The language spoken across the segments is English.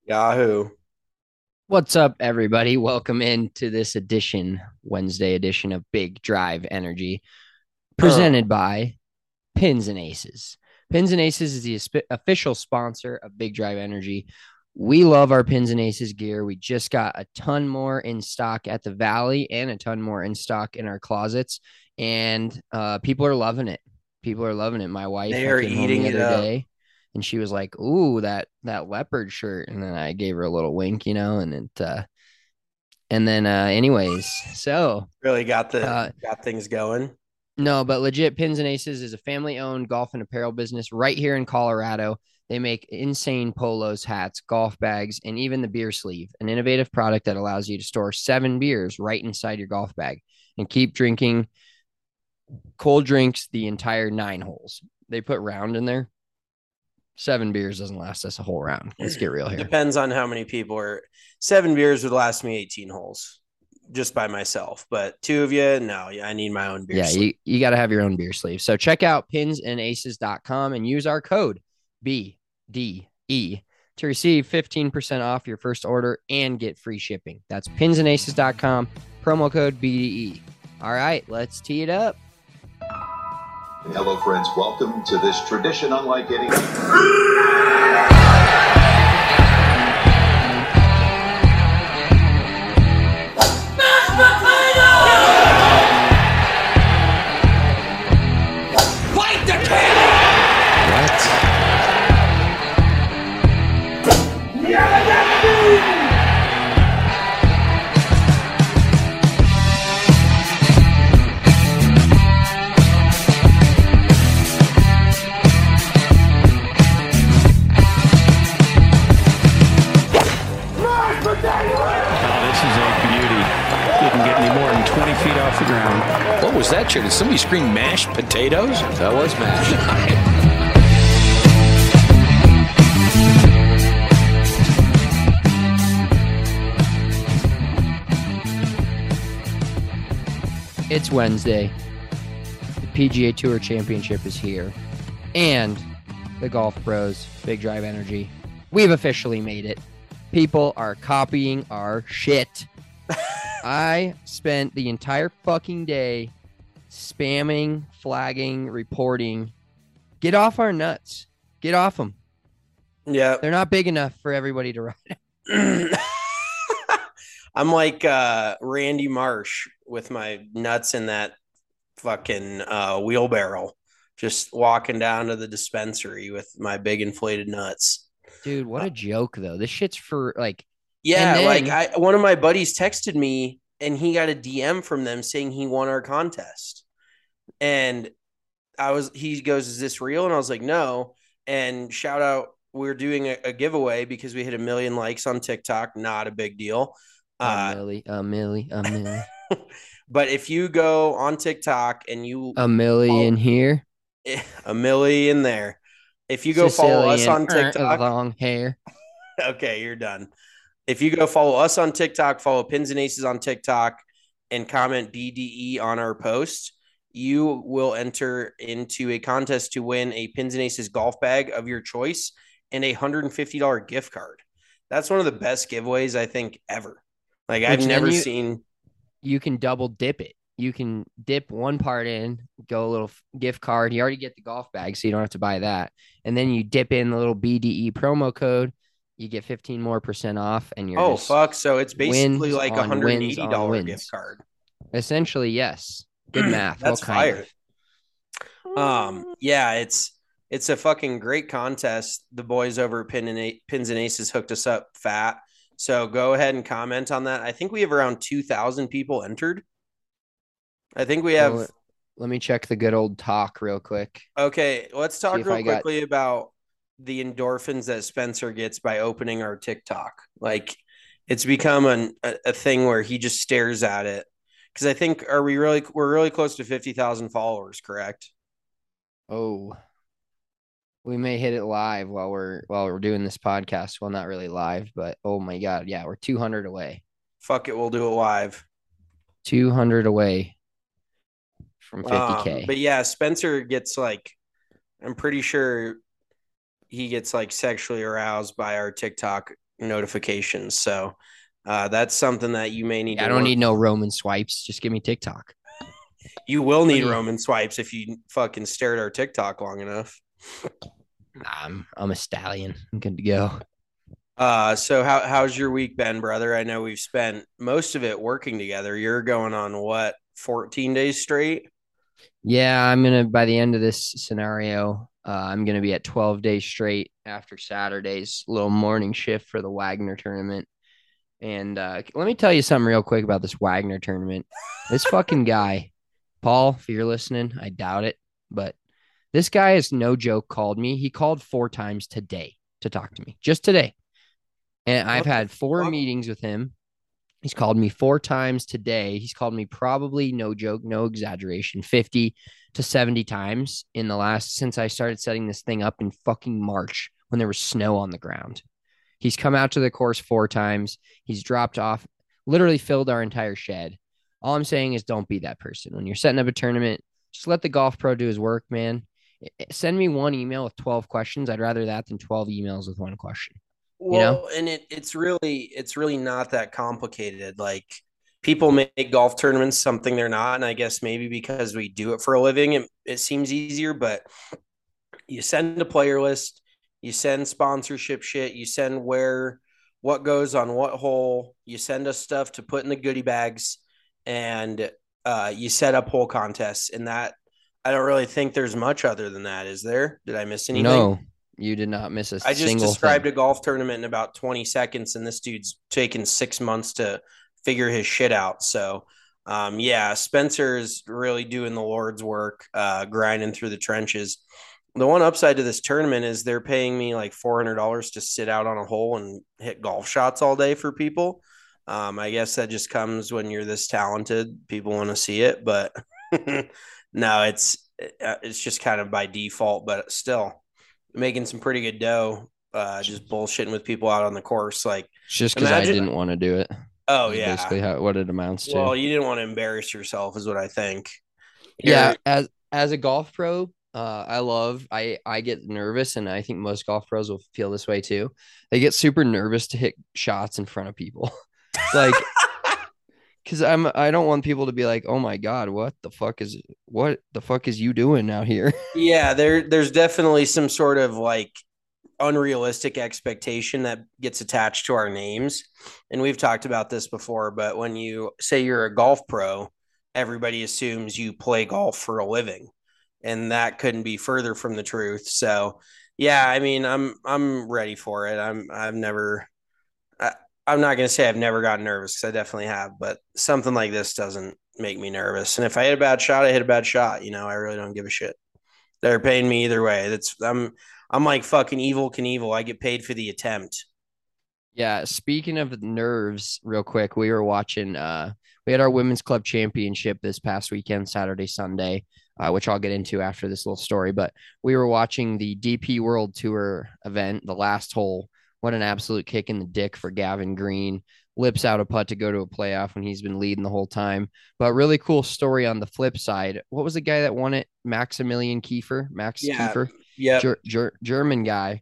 Yahoo. What's up, everybody? Welcome into this Wednesday edition of Big Drive Energy, Uh, presented by Pins and Aces. Pins and Aces is the official sponsor of Big Drive Energy. We love our Pins and Aces gear. We just got a ton more in stock at the Valley and a ton more in stock in our closets, and people are loving it. People are loving it. My wife, they I are came home eating the it other up. day, and she was like, "Ooh, that leopard shirt," and then I gave her a little wink, anyways, so Really got the uh, got things going. no, but legit, Pins and Aces is a family-owned golf and apparel business right here in Colorado. They make insane polos, hats, golf bags, and even the beer sleeve, an innovative product that allows you to store 7 beers right inside your golf bag and keep drinking cold drinks the entire 9 holes. They put round in there. 7 beers doesn't last us a whole round. Let's get real here. Depends on how many people are. 7 beers would last me 18 holes just by myself, but two of you, no, I need my own beer Yeah, sleeve. you got to have your own beer sleeve. So check out pinsandaces.com and use our code BDE to receive 15% off your first order and get free shipping. That's pinsandaces.com, promo code BDE. All right, let's tee it up. Hello, friends. Welcome to this tradition unlike any. This is a beauty. Didn't get any more than 20 feet off the ground. What was that, Did somebody scream mashed potatoes? That was mashed. It's Wednesday. The PGA Tour Championship is here. And the Golf Pros, Big Drive Energy. We've officially made it. People are copying our shit. I spent the entire fucking day spamming, flagging, reporting. Get off our nuts. Get off them. Yeah. They're not big enough for everybody to ride. I'm like Randy Marsh with my nuts in that fucking wheelbarrow, just walking down to the dispensary with my big inflated nuts. Dude, what a joke, though. This shit's for like, and Yeah, like then I one of my buddies texted me and he got a DM from them saying he won our contest. And he goes, "Is this real?" And I was like, "No." And shout out, we're doing a giveaway because we hit 1 million likes on TikTok. Not a big deal. a Uh, milli, a milli, a milli, but if you go on TikTok and you a million follow here. 1 million there, if you go follow us Sicilian, on TikTok, long hair. okay, you're done. If you go follow us on TikTok, follow Pins and Aces on TikTok, and comment BDE on our post, you will enter into a contest to win a Pins and Aces golf bag of your choice and a $150 gift card. That's one of the best giveaways I think ever. Like I've Which then never you seen. you can double dip it. You can dip one part in, go a little gift card. You already get the golf bag, so you don't have to buy that. And then you dip in the little BDE promo code. You get 15% more off, and you're Oh just fuck! So it's basically wins like a on hundred and wins eighty on dollar gift wins. card. Essentially, yes. Good math. Well, That's kind of. fire. Yeah, it's a fucking great contest. The boys over at Pins and Aces hooked us up fat. So go ahead and comment on that. I think we have around 2,000 people entered. I think we Well, have. let me check the good old talk real quick. Okay, let's See talk if real I got. quickly about the endorphins that Spencer gets by opening our TikTok. Like it's become a thing where he just stares at it. Because I think we're really close to 50,000 followers, correct? Oh, we may hit it live while we're doing this podcast. Well, not really live, but oh my god, yeah, we're 200 away. Fuck it, we'll do it live. 200 away from 50K. But yeah, Spencer gets like, I'm pretty sure he gets like sexually aroused by our TikTok notifications. So that's something that you may need I to don't work. need no Roman swipes. Just give me TikTok. You will need Funny. Roman swipes if you fucking stare at our TikTok long enough. I'm a stallion. I'm good to go. So how's your week been, brother? I know we've spent most of it working together. You're going on what, 14 days straight? Yeah, I'm gonna by the end of this scenario, I'm gonna be at 12 days straight after Saturday's little morning shift for the Wagner tournament. And let me tell you something real quick about this Wagner tournament. This fucking guy, Paul, if you're listening, I doubt it, but this guy is no joke. Called me. He called 4 times today to talk to me, just today. And I've What the had 4 fuck? meetings with him. He's called me 4 times today. He's called me probably, no joke, no exaggeration, 50 to 70 times in the last, since I started setting this thing up in fucking March when there was snow on the ground. He's come out to the course 4 times. He's dropped off, literally filled our entire shed. All I'm saying is don't be that person. When you're setting up a tournament, just let the golf pro do his work, man. Send me one email with 12 questions. I'd rather that than 12 emails with one question. You know? Well, and it's really not that complicated. Like people make golf tournaments something they're not, and I guess maybe because we do it for a living, it seems easier. But you send a player list, you send sponsorship shit, you send what goes on what hole, you send us stuff to put in the goodie bags, and you set up hole contests. And that I don't really think there's much other than that, is there? Did I miss anything? No, you did not miss a I just single described thing. a golf tournament in about 20 seconds, and this dude's taken 6 months to figure his shit out. So, yeah, Spencer is really doing the Lord's work, grinding through the trenches. The one upside to this tournament is they're paying me like $400 to sit out on a hole and hit golf shots all day for people. I guess that just comes when you're this talented. People want to see it, but no, it's just kind of by default. But still, making some pretty good dough, just bullshitting with people out on the course. Like, It's just because I imagine. didn't want to do it. Oh Is yeah. basically what it amounts to. Well, you didn't want to embarrass yourself, is what I think. Yeah, You're, as a golf pro, I get nervous, and I think most golf pros will feel this way too. They get super nervous to hit shots in front of people. Like, because I don't want people to be like, oh my God, what the fuck is you doing out here? yeah, there's definitely some sort of like unrealistic expectation that gets attached to our names. And we've talked about this before, but when you say you're a golf pro, everybody assumes you play golf for a living. And that couldn't be further from the truth. So yeah, I mean, I'm ready for it. I'm not gonna say I've never gotten nervous because I definitely have, but something like this doesn't make me nervous. And if I hit a bad shot, I hit a bad shot. I really don't give a shit. They're paying me either way. I'm like fucking evil Knievel. I get paid for the attempt. Yeah, speaking of nerves, real quick, we were watching we had our women's club championship this past weekend, Saturday, Sunday, which I'll get into after this little story, but we were watching the DP World Tour event, the last hole. What an absolute kick in the dick for Gavin Green. Lips out a putt to go to a playoff when he's been leading the whole time. But really cool story on the flip side. What was the guy that won it? Maximilian Kiefer, Max Yeah. Kiefer, Yep. German guy.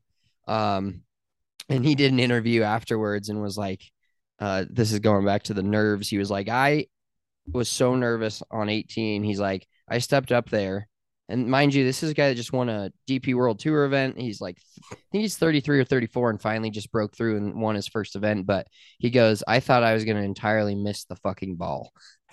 And he did an interview afterwards and was like, this is going back to the nerves. He was like, I was so nervous on 18. He's like, I stepped up there. And mind you, this is a guy that just won a DP World Tour event. He's like, I think he's 33 or 34 and finally just broke through and won his first event. But he goes, I thought I was going to entirely miss the fucking ball.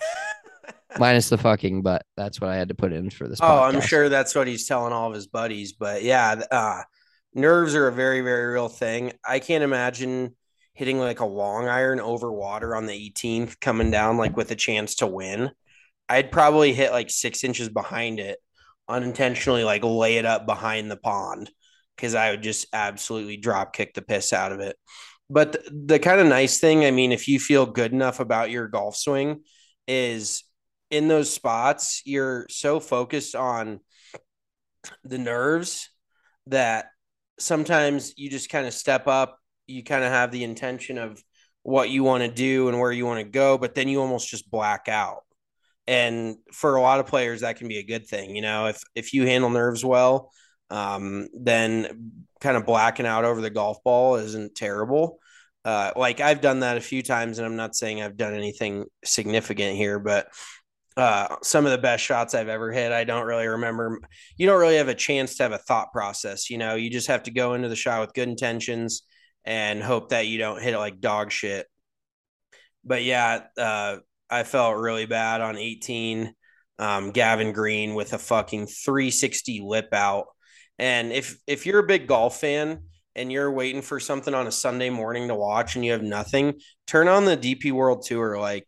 Minus the fucking, but that's what I had to put in for this Oh, I'm podcast. sure that's what he's telling all of his buddies. But yeah, nerves are a very, very real thing. I can't imagine hitting like a long iron over water on the 18th coming down like with a chance to win. I'd probably hit like 6 inches behind it unintentionally, like lay it up behind the pond because I would just absolutely drop kick the piss out of it. But the kind of nice thing, I mean, if you feel good enough about your golf swing, is in those spots, you're so focused on the nerves that sometimes you just kind of step up. You kind of have the intention of what you want to do and where you want to go, but then you almost just black out. And for a lot of players, that can be a good thing. If you handle nerves well, then kind of blacking out over the golf ball isn't terrible. Like I've done that a few times, and I'm not saying I've done anything significant here, but some of the best shots I've ever hit, I don't really remember. You don't really have a chance to have a thought process. You just have to go into the shot with good intentions and hope that you don't hit it like dog shit. But yeah, I felt really bad on 18. Gavin Green with a fucking 360 lip out. And if you're a big golf fan and you're waiting for something on a Sunday morning to watch and you have nothing, turn on the DP World Tour. Like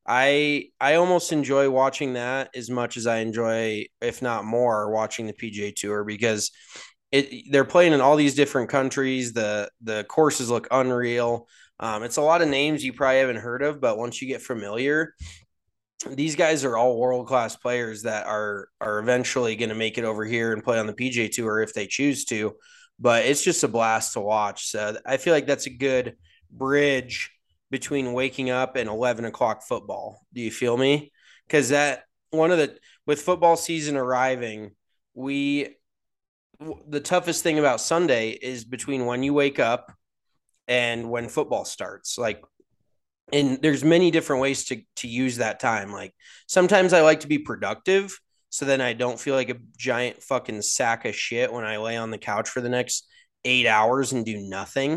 I almost enjoy watching that as much as I enjoy, if not more, watching the PGA Tour because they're playing in all these different countries. The courses look unreal. It's a lot of names you probably haven't heard of, but once you get familiar, these guys are all world class players that are eventually going to make it over here and play on the PGA Tour if they choose to. But it's just a blast to watch. So I feel like that's a good bridge between waking up and 11 o'clock football. Do you feel me? Because with football season arriving, the toughest thing about Sunday is between when you wake up and when football starts. Like, and there's many different ways to use that time. Like sometimes I like to be productive so then I don't feel like a giant fucking sack of shit when I lay on the couch for the next 8 hours and do nothing.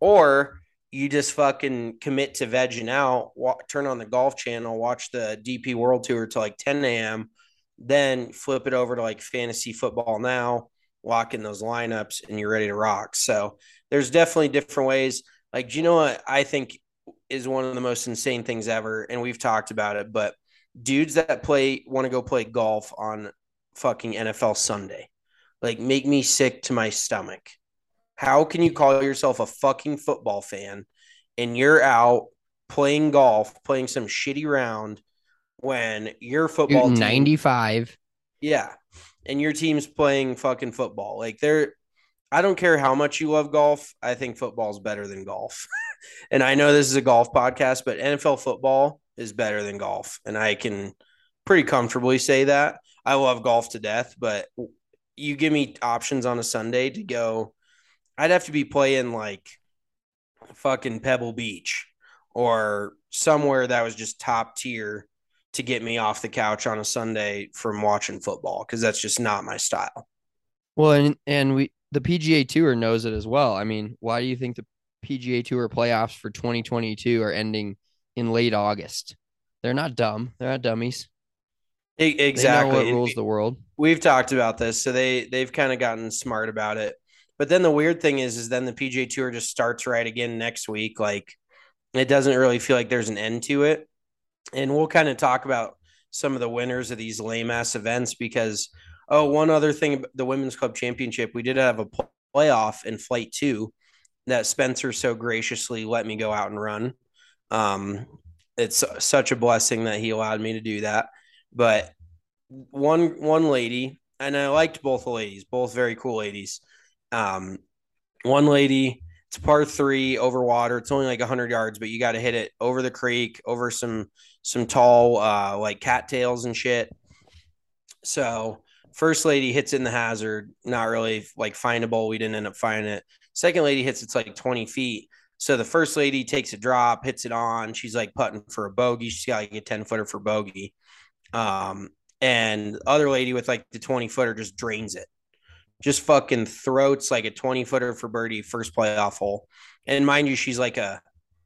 Or you just fucking commit to vegging out, turn on the golf channel, watch the DP World Tour till like 10 a.m., then flip it over to like fantasy football now, lock in those lineups, and you're ready to rock. So there's definitely different ways. Like, do you know what I think is one of the most insane things ever? And we've talked about it, but dudes that want to go play golf on fucking NFL Sunday, like make me sick to my stomach. How can you call yourself a fucking football fan and you're out playing golf, playing some shitty round when your football team 95? Yeah. And your team's playing fucking football. Like I don't care how much you love golf. I think football is better than golf. And I know this is a golf podcast, but NFL football is better than golf. And I can pretty comfortably say that. I love golf to death, but you give me options on a Sunday to go, I'd have to be playing like fucking Pebble Beach or somewhere that was just top tier to get me off the couch on a Sunday from watching football, because that's just not my style. Well, and the PGA Tour knows it as well. I mean, why do you think the PGA Tour playoffs for 2022 are ending in late August? They're not dumb. They're not dummies. Exactly. They know what rules the world. We've talked about this, so they've kind of gotten smart about it. But then the weird thing is then the PGA Tour just starts right again next week. Like it doesn't really feel like there's an end to it. And we'll kind of talk about some of the winners of these lame ass events because, one other thing, the Women's Club Championship, we did have a playoff in Flight 2 that Spencer so graciously let me go out and run. It's such a blessing that he allowed me to do that. But one lady, and I liked both the ladies, both very cool ladies. One lady, it's par 3 over water. It's only like 100 yards, but you got to hit it over the creek, over some tall like cattails and shit. So first lady hits it in the hazard, not really like findable. We didn't end up finding it. Second lady hits it's like 20 feet. So the first lady takes a drop, hits it on. She's like putting for a bogey. She's got like a 10-footer for bogey. And the other lady with like the 20-footer just drains it. Just fucking throats like a 20-footer for birdie first playoff hole. And mind you, she's like a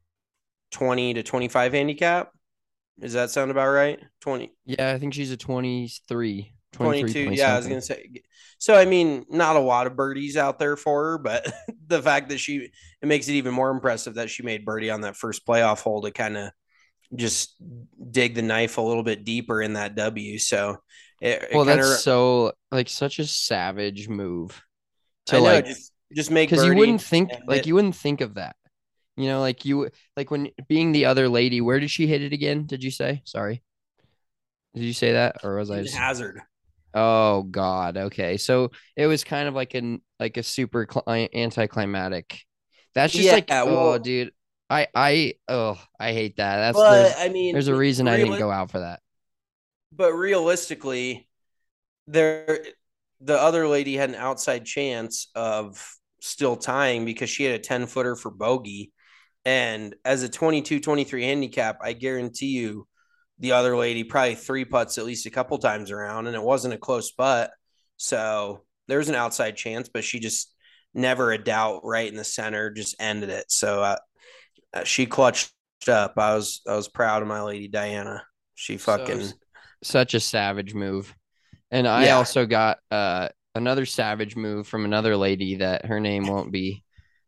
20 to 25 handicap. Does that sound about right? 20. Yeah, I think she's a 23. 22. Yeah, I was going to say. So, I mean, not a lot of birdies out there for her, but the fact that it makes it even more impressive that she made birdie on that first playoff hole to kind of just dig the knife a little bit deeper in that W. So, that's so like such a savage move to like just make, because you wouldn't think of that. You know, like when being the other lady, where did she hit it again? Did you say? Sorry. Did you say that? Or was I just hazard? Oh God. Okay. So it was kind of like a super anticlimactic. That's just dude, I hate that. There's a reason I didn't go out for that. But realistically, the other lady had an outside chance of still tying because she had a 10-footer for bogey. And as a 22, 23 handicap, I guarantee you the other lady probably three putts at least a couple times around, and it wasn't a close putt. So there's an outside chance, but she just never a doubt right in the center, just ended it. So she clutched up. I was proud of my lady Diana. She fucking such a savage move. And I also got another savage move from another lady that her name won't be.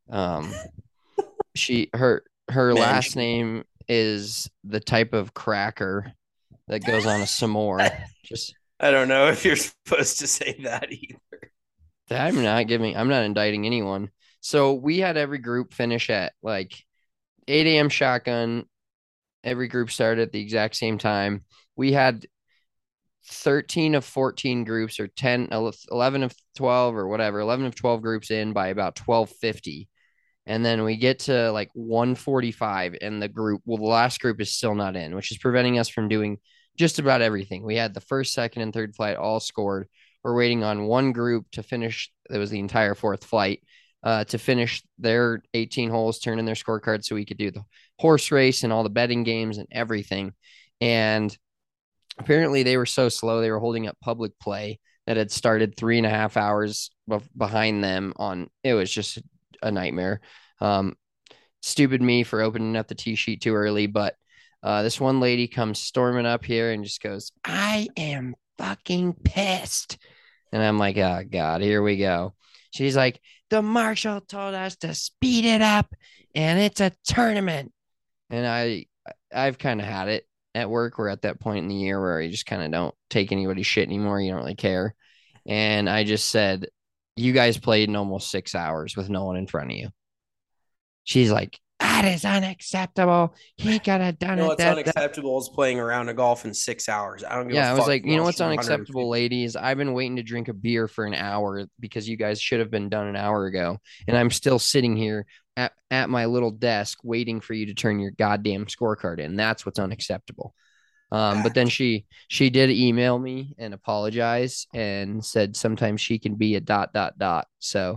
Her last name is the type of cracker that goes on a s'more. Just I don't know if you're supposed to say that either. I'm not indicting anyone. So we had every group finish at like 8 a.m. shotgun. Every group started at the exact same time. We had 13 of 14 groups or 11 of 12 or whatever, 11 of 12 groups in by about 12:50. And then we get to like 1:45 and the last group is still not in, which is preventing us from doing just about everything. We had the first, second, and third flight all scored. We're waiting on one group to finish. That was the entire fourth flight to finish their 18 holes, turn in their scorecard so we could do the horse race and all the betting games and everything. And apparently they were so slow. They were holding up public play that had started 3.5 hours behind them it was just a nightmare. Stupid me for opening up the tee sheet too early, but this one lady comes storming up here and just goes, "I am fucking pissed." And I'm like, "Oh God, here we go." She's like, "The marshal told us to speed it up and it's a tournament." And I've kind of had it at work. We're at that point in the year where you just kind of don't take anybody's shit anymore. You don't really care. And I just said, "You guys played in almost 6 hours with no one in front of you." She's like, "That is unacceptable. He could have done it." What's unacceptable is playing around a golf in 6 hours. I don't give a fuck. I was like, you know what's unacceptable, ladies? I've been waiting to drink a beer for an hour because you guys should have been done an hour ago. And I'm still sitting here at my little desk waiting for you to turn your goddamn scorecard in. That's what's unacceptable. But then she did email me and apologize and said sometimes she can be a ... So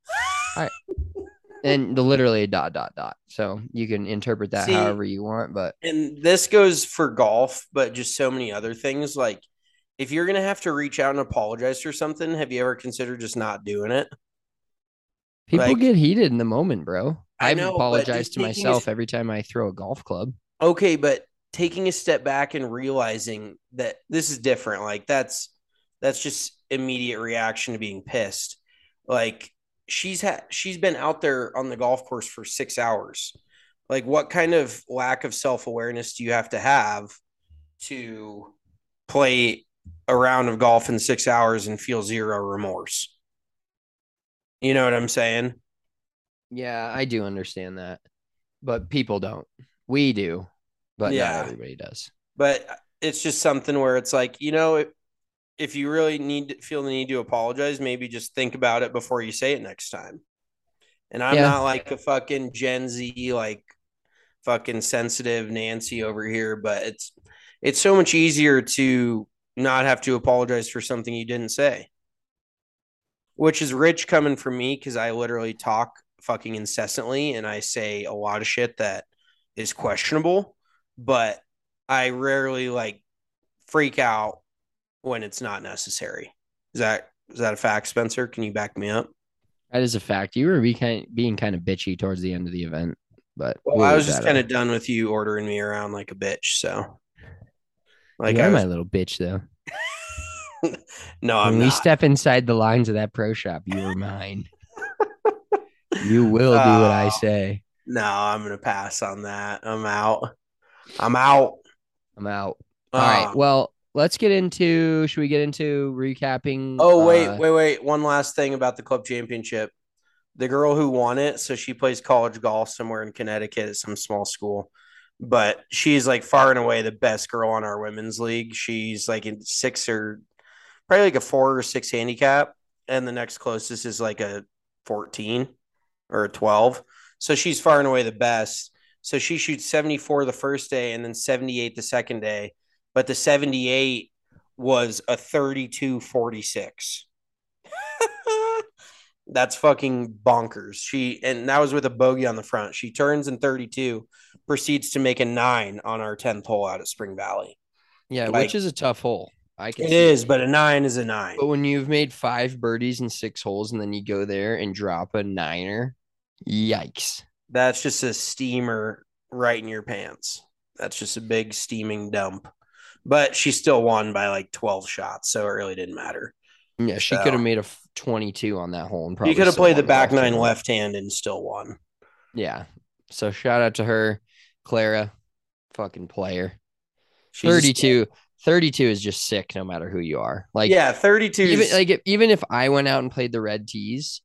and literally a ... So you can interpret that however you want. But and this goes for golf, but just so many other things. Like if you're gonna have to reach out and apologize for something, have you ever considered just not doing it? People get heated in the moment, bro. I know, I've apologized to myself every time I throw a golf club. Okay, but taking a step back and realizing that this is different, like that's just immediate reaction to being pissed. Like she's been out there on the golf course for 6 hours. Like what kind of lack of self-awareness do you have to play a round of golf in 6 hours and feel zero remorse? You know what I'm saying? Yeah, I do understand that. But people don't. We do, but not everybody does. But it's just something where it's like, if you really feel the need to apologize, maybe just think about it before you say it next time. And I'm not like a fucking Gen Z, like fucking sensitive Nancy over here, but it's so much easier to not have to apologize for something you didn't say, which is rich coming from me because I literally talk fucking incessantly and I say a lot of shit that is questionable, but I rarely like freak out when it's not necessary. Is that a fact, Spencer? Can you back me up? That is a fact. You were being kind of bitchy towards the end of the event, but I was just kind of done with you ordering me around like a bitch. So, like, you're my little bitch, though. No, when we step inside the lines of that pro shop, you are mine. You will do what I say. No, I'm gonna pass on that. I'm out. All right. Well, let's get into. Should we get into recapping? Oh, wait. One last thing about the club championship. The girl who won it, so she plays college golf somewhere in Connecticut at some small school, but she's like far and away the best girl on our women's league. She's like in probably like a 4 or 6 handicap, and the next closest is like a 14 or a 12. So she's far and away the best. So she shoots 74 the first day and then 78 the second day. But the 78 was a 32-46. That's fucking bonkers. And that was with a bogey on the front. She turns in 32, proceeds to make a 9 on our 10th hole out at Spring Valley. Yeah, Like, which is a tough hole. I can it see is, it. but a 9 is a 9. But when you've made 5 birdies in 6 holes and then you go there and drop a niner, yikes. That's just a steamer right in your pants. That's just a big steaming dump. But she still won by like 12 shots, so it really didn't matter. Yeah, she could have made a 22 on that hole and probably You could have still played the won back golf 9 tournament. left hand and still won. Yeah. So shout out to her, Clara, fucking player. She's 32 is just sick no matter who you are. Like, yeah, 32 even if I went out and played the red tees,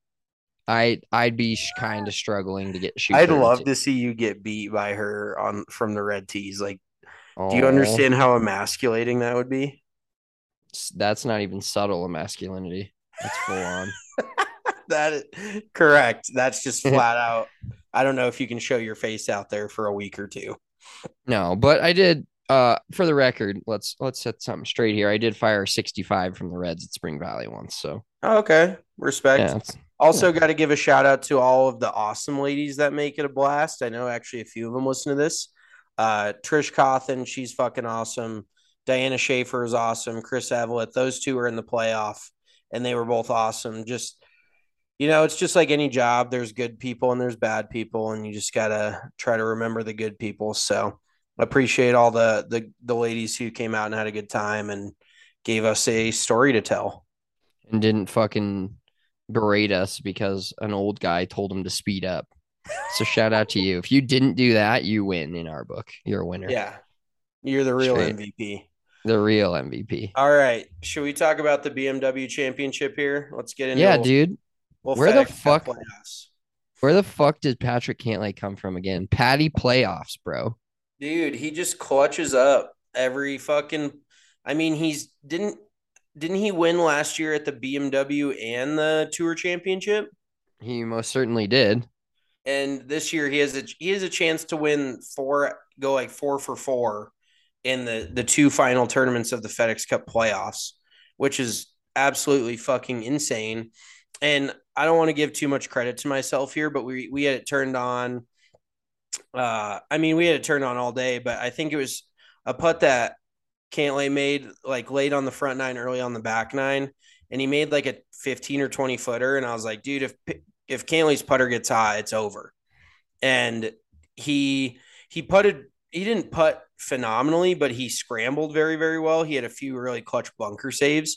I'd be kind of struggling to get shoot. I'd 32. love to see you get beat by her from the red tees. Like, do you Aw, understand how emasculating that would be? That's not even subtle masculinity. That's full on. That is correct. That's just flat out. I don't know if you can show your face out there for a week or two. No, but I did. For the record, let's set something straight here. I did fire 65 from the Reds at Spring Valley once. So Okay, respect. yeah, Also, got to give a shout out to all of the awesome ladies that make it a blast. I know actually a few of them listen to this. Trish Cawthon, she's fucking awesome. Diana Schaefer is awesome. Chris Evelett, those two are in the playoff, and they were both awesome. Just, it's just like any job. There's good people and there's bad people, and you just gotta try to remember the good people. So, appreciate all the ladies who came out and had a good time and gave us a story to tell. and didn't fucking berate us because an old guy told him to speed up. So shout out to you. If you didn't do that, you win in our book. You're a winner. Yeah, you're the real Straight. MVP. The real MVP. All right. Should we talk about the BMW championship here? Let's get into Yeah, dude. Where the FedEx Cup fuck- playoffs. Where the fuck did Patrick Cantlay come from again? Patty playoffs, bro. Dude, he just clutches up every fucking he's didn't he win last year at the BMW and the Tour Championship? He most certainly did. And this year he has a chance to win go like 4 for 4 in the 2 final tournaments of the FedEx Cup playoffs, which is absolutely fucking insane. And I don't want to give too much credit to myself here, but we had it turned on. We had it turned on all day, but I think it was a putt that Cantlay made like late on the front 9, early on the back 9, and he made like a 15 or 20 footer. And I was like, dude, if Cantlay's putter gets high, it's over. And he putted. He didn't putt phenomenally, but he scrambled very, very well. He had a few really clutch bunker saves.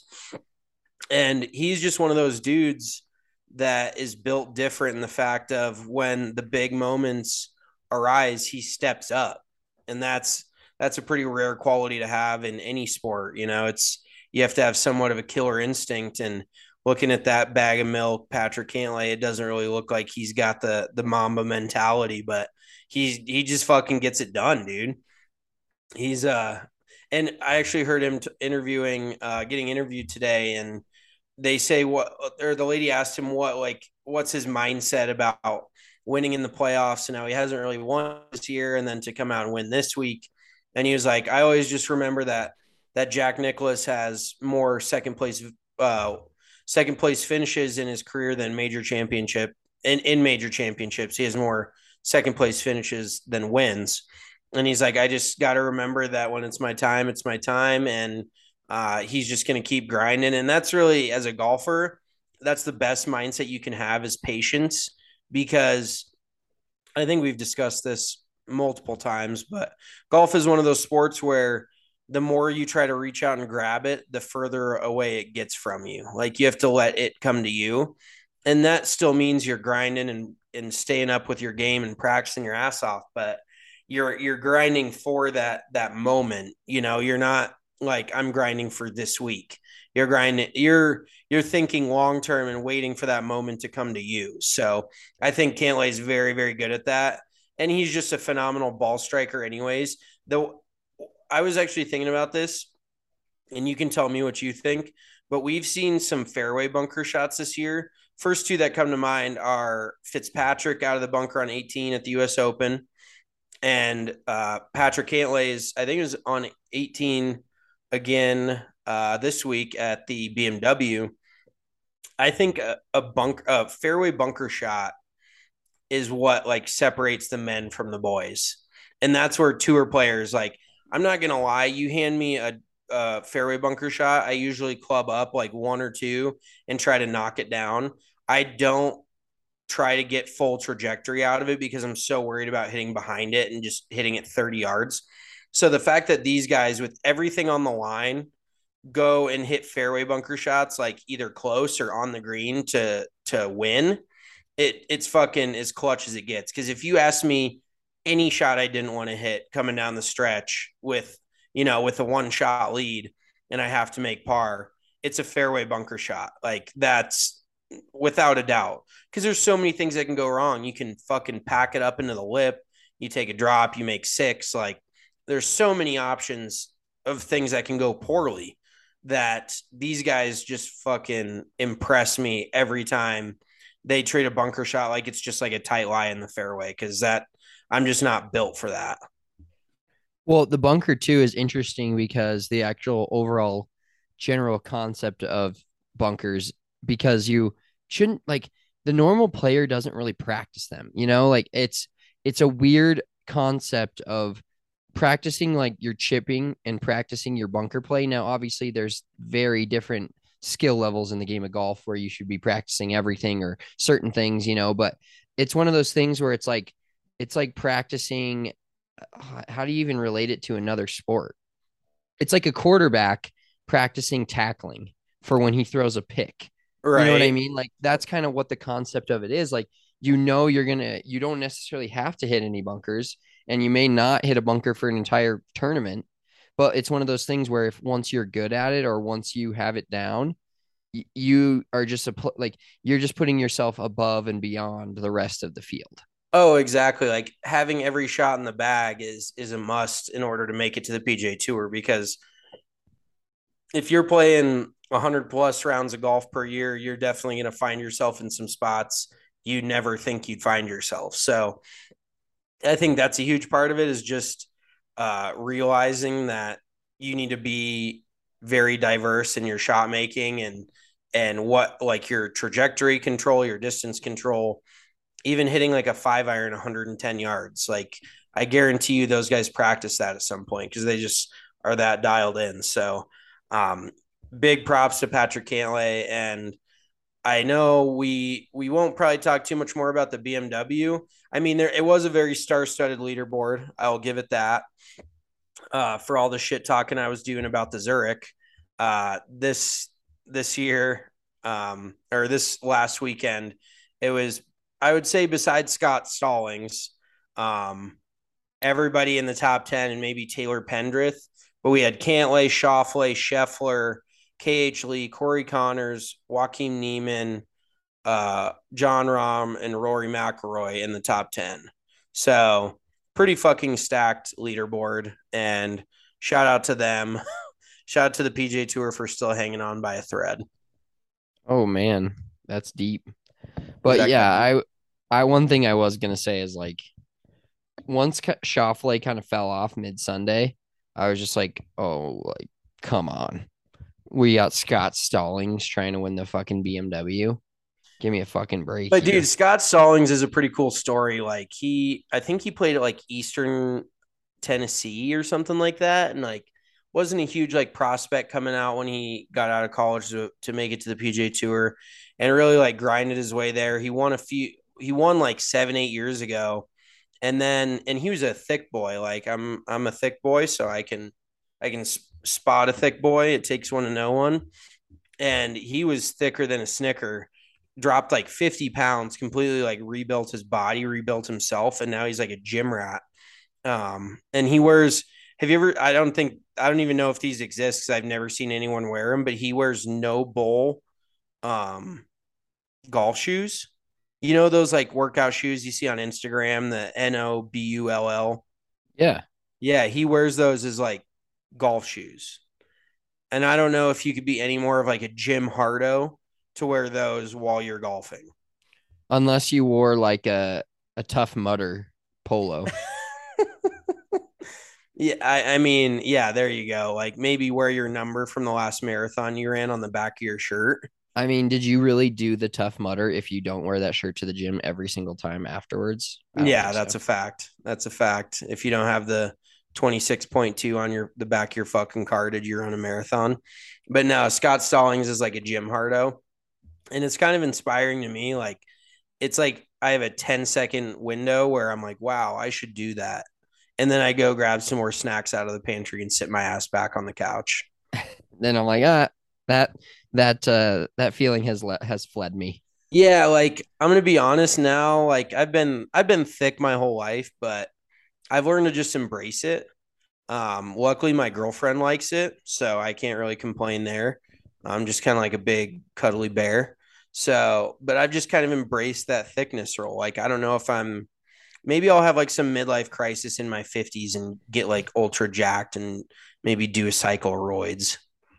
And he's just one of those dudes that is built different in the fact of when the big moments arise, he steps up. And that's a pretty rare quality to have in any sport. You have to have somewhat of a killer instinct. And looking at that bag of milk, Patrick Cantlay, it doesn't really look like he's got the Mamba mentality, but he just fucking gets it done, dude. He's and I actually heard him getting interviewed today, and they say the lady asked him what's his mindset about winning in the playoffs, and now he hasn't really won this year, and then to come out and win this week. And he was like, I always just remember that Jack Nicklaus has more second place finishes in his career than major championship. In major championships, he has more second place finishes than wins. And he's like, I just got to remember that when it's my time, it's my time. And he's just going to keep grinding. And that's really, as a golfer, that's the best mindset you can have is patience, because I think we've discussed this multiple times, but golf is one of those sports where the more you try to reach out and grab it, the further away it gets from you. Like, you have to let it come to you. And that still means you're grinding and staying up with your game and practicing your ass off. But you're grinding for that moment. You're not like, I'm grinding for this week. You're grinding. You're thinking long term and waiting for that moment to come to you. So I think Cantlay is very, very good at that, and he's just a phenomenal ball striker. Anyways, though, I was actually thinking about this, and you can tell me what you think. But we've seen some fairway bunker shots this year. First 2 that come to mind are Fitzpatrick out of the bunker on 18 at the U.S. Open, and Patrick Cantlay's, I think it was on 18 again this week at the BMW. I think a fairway bunker shot is what like separates the men from the boys. And that's where tour players like, I'm not gonna lie, you hand me a fairway bunker shot, I usually club up like one or two and try to knock it down. I don't try to get full trajectory out of it because I'm so worried about hitting behind it and just hitting it 30 yards. So the fact that these guys with everything on the line go and hit fairway bunker shots like either close or on the green to win, it's fucking as clutch as it gets. Because if you ask me any shot I didn't want to hit coming down the stretch with with a one shot lead and I have to make par, it's a fairway bunker shot. Like that's without a doubt. Because there's so many things that can go wrong. You can fucking pack it up into the lip. You take a drop. You make six. Like there's so many options of things that can go poorly that these guys just fucking impress me every time they trade a bunker shot like it's just like a tight lie in the fairway because that I'm just not built for that. Well, the bunker too is interesting because the actual overall general concept of bunkers, because you shouldn't like the normal player doesn't really practice them, like it's a weird concept of practicing like your chipping and practicing your bunker play. Now, obviously there's very different skill levels in the game of golf where you should be practicing everything or certain things, but it's one of those things where it's like practicing. How do you even relate it to another sport? It's like a quarterback practicing tackling for when he throws a pick. Right. You know what I mean? Like that's kind of what the concept of it is. Like, you don't necessarily have to hit any bunkers and you may not hit a bunker for an entire tournament, but it's one of those things where if once you're good at it or once you have it down, you are just like you're just putting yourself above and beyond the rest of the field. Oh, exactly. Like having every shot in the bag is a must in order to make it to the PGA Tour because if you're playing 100 plus rounds of golf per year, you're definitely going to find yourself in some spots you never think you'd find yourself. So I think that's a huge part of it is just realizing that you need to be very diverse in your shot making and what like your trajectory control, your distance control, even hitting like a 5 iron 110 yards. Like I guarantee you those guys practice that at some point because they just are that dialed in. So um, big props to Patrick Cantlay. And I know we won't probably talk too much more about the BMW. I mean, it was a very star-studded leaderboard. I'll give it that. For all the shit talking I was doing about the Zurich, this year or this last weekend, it was I would say besides Scott Stallings, everybody in the top 10 and maybe Taylor Pendrith, but we had Cantlay, Schauffele, Scheffler, KH Lee, Corey Connors, Joaquin Niemann, John Rahm, and Rory McIlroy in the top 10. So pretty fucking stacked leaderboard. And shout out to them. Shout out to the PGA Tour for still hanging on by a thread. Oh man, that's deep. But yeah, I one thing I was gonna say is like once Schauffele kind of fell off mid Sunday, I was just like, oh, like come on, we got Scott Stallings trying to win the fucking BMW. Give me a fucking break. But dude, Scott Stallings is a pretty cool story. Like I think he played at like Eastern Tennessee or something like that, and like wasn't a huge like prospect coming out when he got out of college to make it to the PGA Tour, and really like grinded his way there. He won like 7-8 years ago, and he was a thick boy. Like I'm a thick boy, so I can spot a thick boy. It takes one to know one, and he was thicker than a Snicker. Dropped like 50 pounds, completely like rebuilt his body, rebuilt himself, and now he's like a gym rat. And he wears. Have you ever? I don't even know if these exist because I've never seen anyone wear them. But he wears no bull, golf shoes. You know those like workout shoes you see on Instagram, the NOBULL. Yeah, yeah. He wears those as like golf shoes, and I don't know if you could be any more of like a Jim Hardo to wear those while you're golfing. Unless you wore like a Tough Mudder polo. Yeah, I mean, yeah, there you go. Like maybe wear your number from the last marathon you ran on the back of your shirt. I mean, did you really do the Tough Mudder if you don't wear that shirt to the gym every single time afterwards? I don't Yeah, think that's so. a fact. That's a fact. If you don't have the 26.2 on the back of your fucking car, did you run a marathon? But no, Scott Stallings is like a gym hardo. And it's kind of inspiring to me. Like, it's like I have a 10-second window where I'm like, wow, I should do that. And then I go grab some more snacks out of the pantry and sit my ass back on the couch. Then I'm like, that that feeling has fled me. Yeah, like I'm gonna be honest now. Like I've been thick my whole life, but I've learned to just embrace it. Luckily my girlfriend likes it, so I can't really complain there. I'm just kind of like a big cuddly bear. So, but I've just kind of embraced that thickness role. Like I don't know if maybe I'll have like some midlife crisis in my 50s and get like ultra jacked and maybe do a cycle of roids.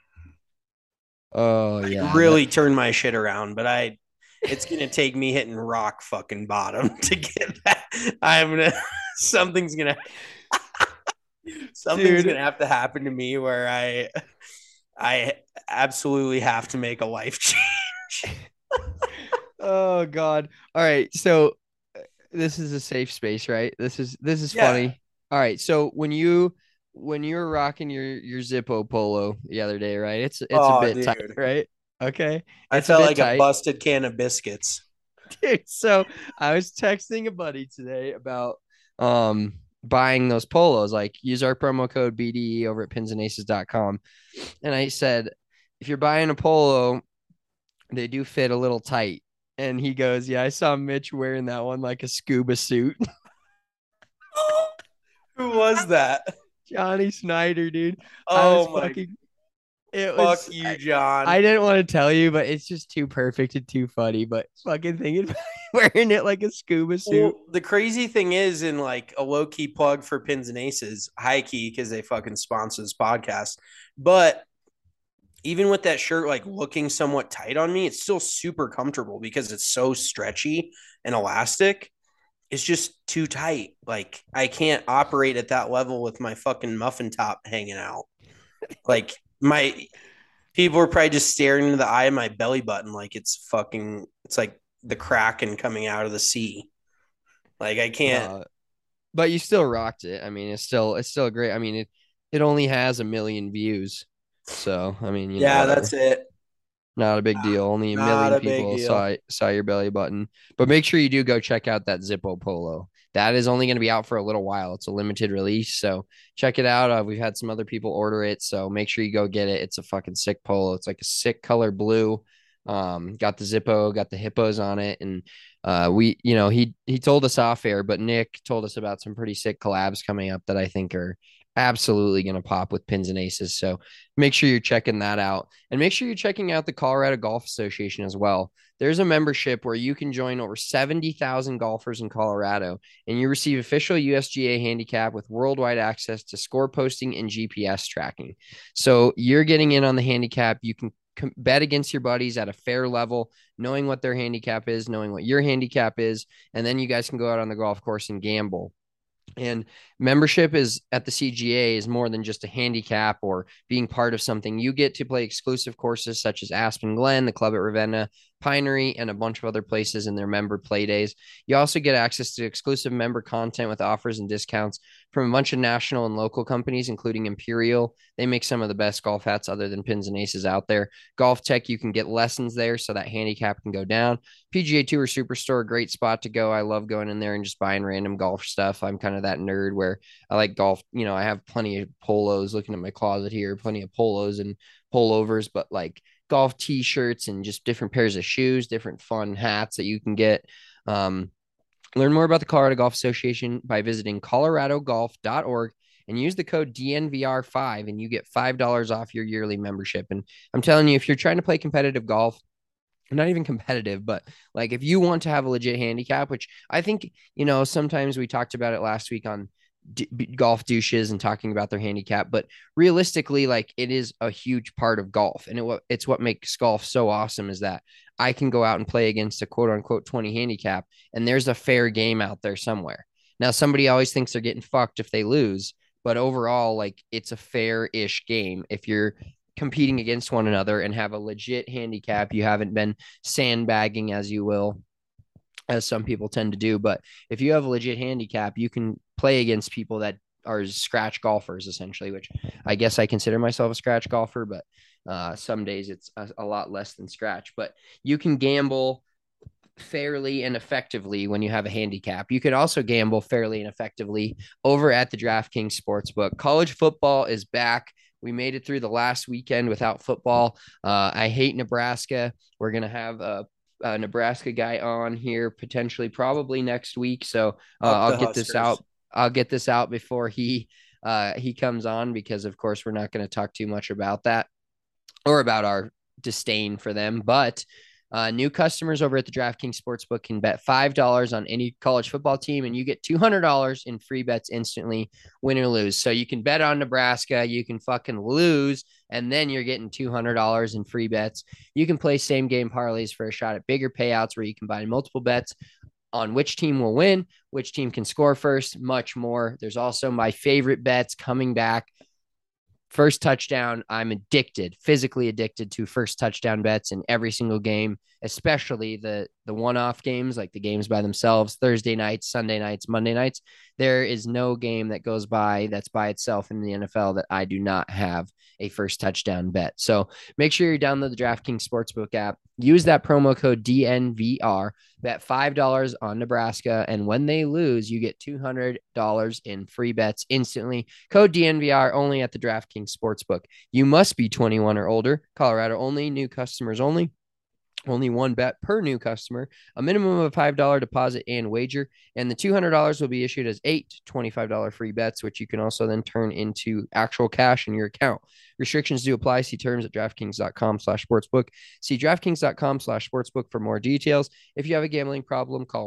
Oh Like yeah, that really turn my shit around, but it's gonna take me hitting rock fucking bottom to get that. I'm gonna something's gonna something's dude. gonna have to happen to me where I absolutely have to make a life change. Oh God. All right. So this is a safe space, right? This is Yeah. funny. All right. So when you were rocking your Zippo polo the other day, right? It's a Oh, bit tight, dude. right? Okay. I It's a felt bit like a tight. busted can of biscuits. Dude, so I was texting a buddy today about buying those polos. Like use our promo code BDE over at pinsandaces.com. And I said, if you're buying a polo, they do fit a little tight. And he goes, yeah, I saw Mitch wearing that one like a scuba suit. Who was that? Johnny Snyder, dude. I was Oh my fucking it fuck was you, John. I didn't want to tell you, but it's just too perfect and too funny. But fucking thinking about wearing it like a scuba suit. Well, the crazy thing is, in like a low key plug for Pins and Aces, high key because they fucking sponsor this podcast. But even with that shirt like looking somewhat tight on me, it's still super comfortable because it's so stretchy and elastic. It's just too tight. Like I can't operate at that level with my fucking muffin top hanging out. Like my people are probably just staring into the eye of my belly button like it's like the kraken coming out of the sea. Like I can't. No, but you still rocked it. I mean, it's still great. I mean, it only has 1 million views. So, I mean, Yeah, that's whatever. it. Not a big deal. Only a Not million a big people deal. saw your belly button. But make sure you do go check out that Zippo polo. That is only going to be out for a little while. It's a limited release, so check it out. We've had some other people order it, so make sure you go get it. It's a fucking sick polo. It's like a sick color blue. Got the Zippo, got the hippos on it, and he told us off air, but Nick told us about some pretty sick collabs coming up that I think are absolutely going to pop with Pins and Aces. So make sure you're checking that out. And make sure you're checking out the Colorado Golf Association as well. There's a membership where you can join over 70,000 golfers in Colorado, and you receive official USGA handicap with worldwide access to score posting and GPS tracking. So you're getting in on the handicap. You can bet against your buddies at a fair level, knowing what their handicap is, knowing what your handicap is, and then you guys can go out on the golf course and gamble. And membership is at the CGA is more than just a handicap or being part of something. You get to play exclusive courses such as Aspen Glen, the club at Ravenna, Pinery, and a bunch of other places in their member play days. You also get access to exclusive member content with offers and discounts from a bunch of national and local companies, including Imperial. They make some of the best golf hats other than Pins and Aces out there. Golf Tech, you can get lessons there so that handicap can go down. PGA Tour Superstore, great spot to go. I love going in there and just buying random golf stuff. I'm kind of that nerd where I like golf. I have plenty of polos looking at my closet here, plenty of polos and pullovers, but like golf t-shirts and just different pairs of shoes, different fun hats that you can get. Um, Learn more about the Colorado Golf Association by visiting coloradogolf.org and use the code DNVR5 and you get $5 off your yearly membership. And I'm telling you, if you're trying to play competitive golf, not even competitive, but like if you want to have a legit handicap, which I think, sometimes we talked about it last week on golf douches and talking about their handicap, but realistically, like it is a huge part of golf. And it's what makes golf so awesome is that I can go out and play against a quote unquote 20 handicap and there's a fair game out there somewhere. Now, somebody always thinks they're getting fucked if they lose, but overall, like it's a fair ish game if you're competing against one another and have a legit handicap. You haven't been sandbagging, as you will, as some people tend to do. But if you have a legit handicap, you can play against people that are scratch golfers, essentially, which I guess I consider myself a scratch golfer, but some days it's a lot less than scratch. But you can gamble fairly and effectively when you have a handicap. You can also gamble fairly and effectively over at the DraftKings Sportsbook. College football is back. We made it through the last weekend without football. I hate Nebraska. We're going to have a Nebraska guy on here potentially probably next week. So I'll get this out. I'll get this out before he comes on, because of course we're not going to talk too much about that or about our disdain for them. But new customers over at the DraftKings Sportsbook can bet $5 on any college football team, and you get $200 in free bets instantly, win or lose. So you can bet on Nebraska, you can fucking lose, and then you're getting $200 in free bets. You can play same game parlays for a shot at bigger payouts where you combine multiple bets on which team will win, which team can score first, much more. There's also my favorite bets coming back. First touchdown. I'm addicted, physically addicted to first touchdown bets in every single game, especially the one-off games, like the games by themselves, Thursday nights, Sunday nights, Monday nights. There is no game that goes by that's by itself in the NFL that I do not have a first touchdown bet. So make sure you download the DraftKings Sportsbook app. Use that promo code DNVR. Bet $5 on Nebraska, and when they lose, you get $200 in free bets instantly. Code DNVR only at the DraftKings Sportsbook. You must be 21 or older. Colorado only. New customers only. Only one bet per new customer, a minimum of a $5 deposit and wager, and the $200 will be issued as 8 $25 free bets, which you can also then turn into actual cash in your account. Restrictions do apply. See terms at DraftKings.com/sportsbook. See DraftKings.com/sportsbook for more details. If you have a gambling problem, call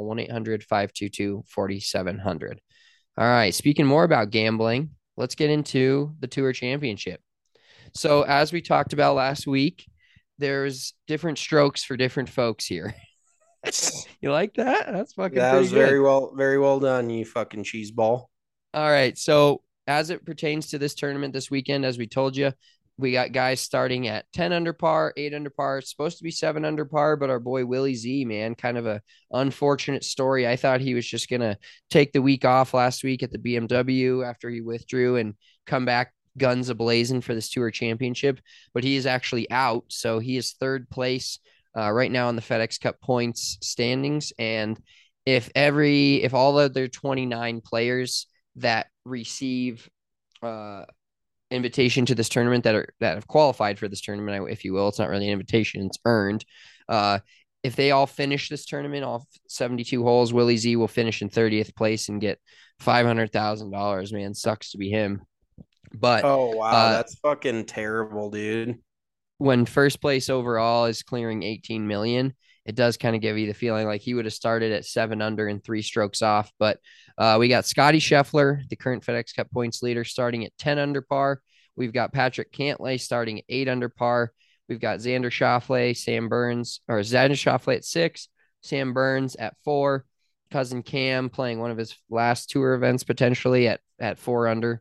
1-800-522-4700. All right, speaking more about gambling, let's get into the Tour Championship. So as we talked about last week, there's different strokes for different folks here. You like that? That's fucking That was good. very well done, you fucking cheese ball. All right. So as it pertains to this tournament this weekend, as we told you, we got guys starting at 10 under par, 8 under par. It's supposed to be 7 under par, but our boy Willie Z, man, kind of a unfortunate story. I thought he was just going to take the week off last week at the BMW after he withdrew and come back guns a-blazing for this Tour Championship, but he is actually out. So he is third place right now in the FedEx Cup points standings. And if all of their 29 players that receive invitation to this tournament that have qualified for this tournament, if you will, it's not really an invitation, it's earned. If they all finish this tournament off 72 holes, Willie Z will finish in 30th place and get $500,000. Man, sucks to be him. But oh wow, that's fucking terrible, dude. When first place overall is clearing 18 million, it does kind of give you the feeling like he would have started at 7 under and 3 strokes off. But we got Scotty Scheffler, the current FedEx Cup points leader, starting at 10 under par. We've got Patrick Cantlay starting at 8 under par. We've got Xander Schauffele, Xander Schauffele at 6, Sam Burns at 4, cousin Cam playing one of his last tour events potentially at 4 under.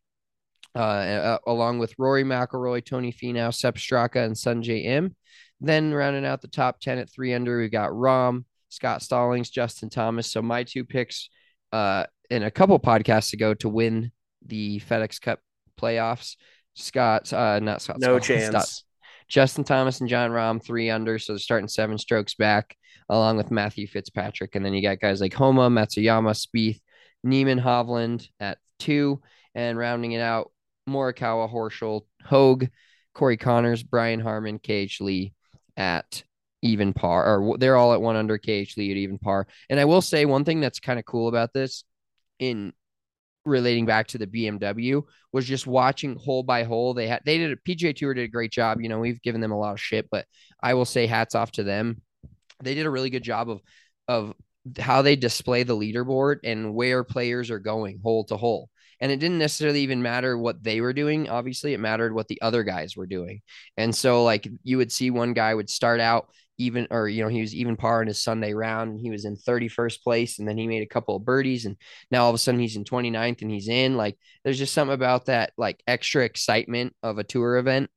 Along with Rory McIlroy, Tony Finau, Sepp Straka, and Sungjae Im. Then rounding out the top 10 at 3 under, we've got Rahm, Scott Stallings, Justin Thomas. So my two picks in a couple podcasts ago to win the FedEx Cup playoffs, Justin Thomas and Jon Rahm 3 under. So they're starting 7 strokes back, along with Matthew Fitzpatrick. And then you got guys like Homa, Matsuyama, Spieth, Neiman, Hovland at 2, and rounding it out, Morikawa, Horschel, Hogue, Corey Connors, Brian Harman, KH Lee at even par, or they're all at 1 under, KH Lee at even par. And I will say one thing that's kind of cool about this, in relating back to the BMW, was just watching hole by hole. PGA Tour did a great job. You know, we've given them a lot of shit, but I will say hats off to them. They did a really good job of how they display the leaderboard and where players are going hole to hole. And it didn't necessarily even matter what they were doing. Obviously, it mattered what the other guys were doing. And so, like, you would see one guy would start out even, or, you know, he was even par in his Sunday round and he was in 31st place. And then he made a couple of birdies. And now all of a sudden he's in 29th and he's in. Like, there's just something about that, like, extra excitement of a tour event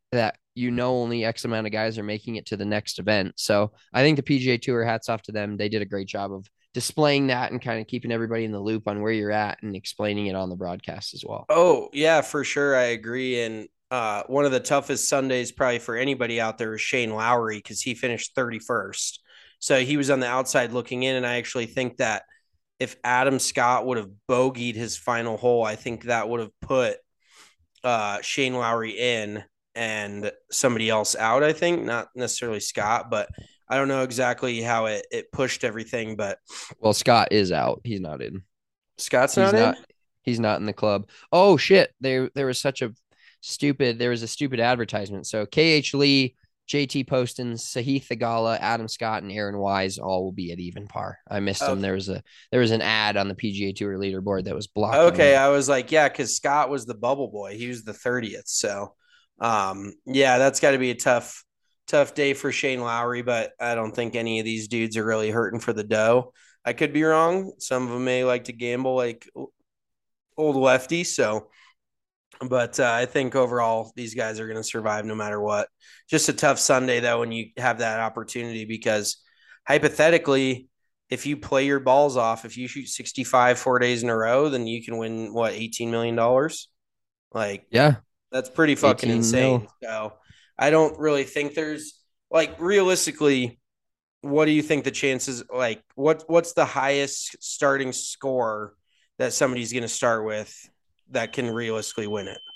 that only X amount of guys are making it to the next event. So I think the PGA Tour, hats off to them. They did a great job of displaying that and kind of keeping everybody in the loop on where you're at and explaining it on the broadcast as well. Oh, yeah, for sure. I agree. And one of the toughest Sundays probably for anybody out there was Shane Lowry because he finished 31st. So he was on the outside looking in. And I actually think that if Adam Scott would have bogeyed his final hole, I think that would have put Shane Lowry in and somebody else out, I think. Not necessarily Scott, but I don't know exactly how it pushed everything. But Well, Scott is out. He's not in. Scott's He's not in? He's not in the club. Oh shit. There was a stupid advertisement. So KH Lee, JT Poston, Sahith Theegala, Adam Scott, and Aaron Wise all will be at even par. I missed them. There was an ad on the PGA Tour leaderboard that was blocked. Okay, I was like, yeah, because Scott was the bubble boy. He was the 30th. So yeah, that's got to be a tough day for Shane Lowry, but I don't think any of these dudes are really hurting for the dough. I could be wrong. Some of them may like to gamble like old lefty. So, but I think overall these guys are going to survive no matter what. Just a tough Sunday though when you have that opportunity because hypothetically, if you play your balls off, if you shoot 65 4 days in a row, then you can win what $18 million. Like, yeah, that's pretty fucking insane. Mil. So I don't really think there's like realistically. What do you think the chances like? What's the highest starting score that somebody's going to start with that can realistically win it?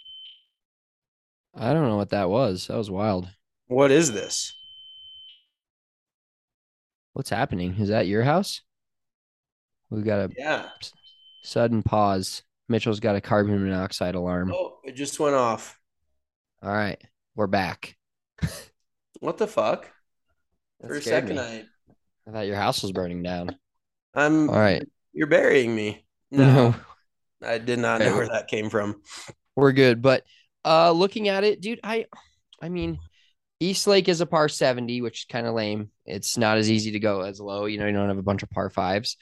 I don't know what that was. That was wild. What is this? What's happening? Is that your house? We got a sudden pause. Mitchell's got a carbon monoxide alarm. Oh, it just went off. All right, we're back. What the fuck? For a second, I thought your house was burning down. All right. You're burying me. No, I did not know where that came from. We're good, but looking at it, dude, I mean, East Lake is a par 70, which is kind of lame. It's not as easy to go as low. You don't have a bunch of par fives.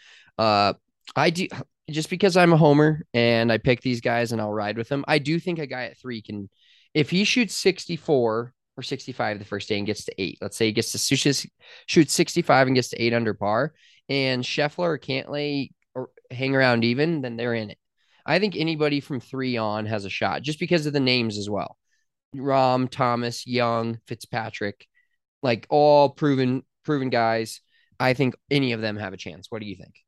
I do just because I'm a homer and I pick these guys and I'll ride with them. I do think a guy at 3 can, if he shoots 64 or 65 the first day and gets to 8, let's say he gets to shoot 65 and gets to 8 under par, and Scheffler or Cantlay or hang around even, then they're in it. I think anybody from 3 on has a shot just because of the names as well. Rahm, Thomas, Young, Fitzpatrick, like all proven guys. I think any of them have a chance. What do you think?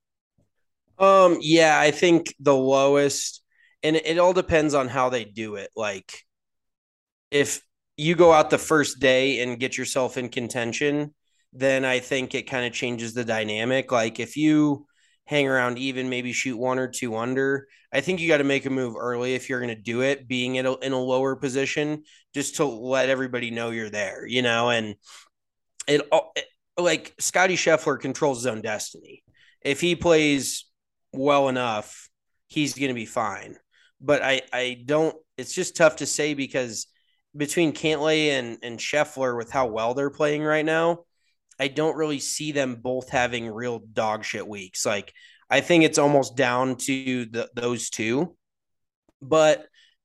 Yeah, I think the lowest, and it all depends on how they do it. Like, if you go out the first day and get yourself in contention, then I think it kind of changes the dynamic. Like, if you hang around even, maybe shoot 1 or 2 under, I think you got to make a move early if you're going to do it, being in a lower position, just to let everybody know you're there, and it like Scotty Scheffler controls his own destiny. If he plays well enough, he's going to be fine. But I don't, it's just tough to say because between Cantlay and Scheffler with how well they're playing right now, I don't really see them both having real dog shit weeks. Like, I think it's almost down to those two, but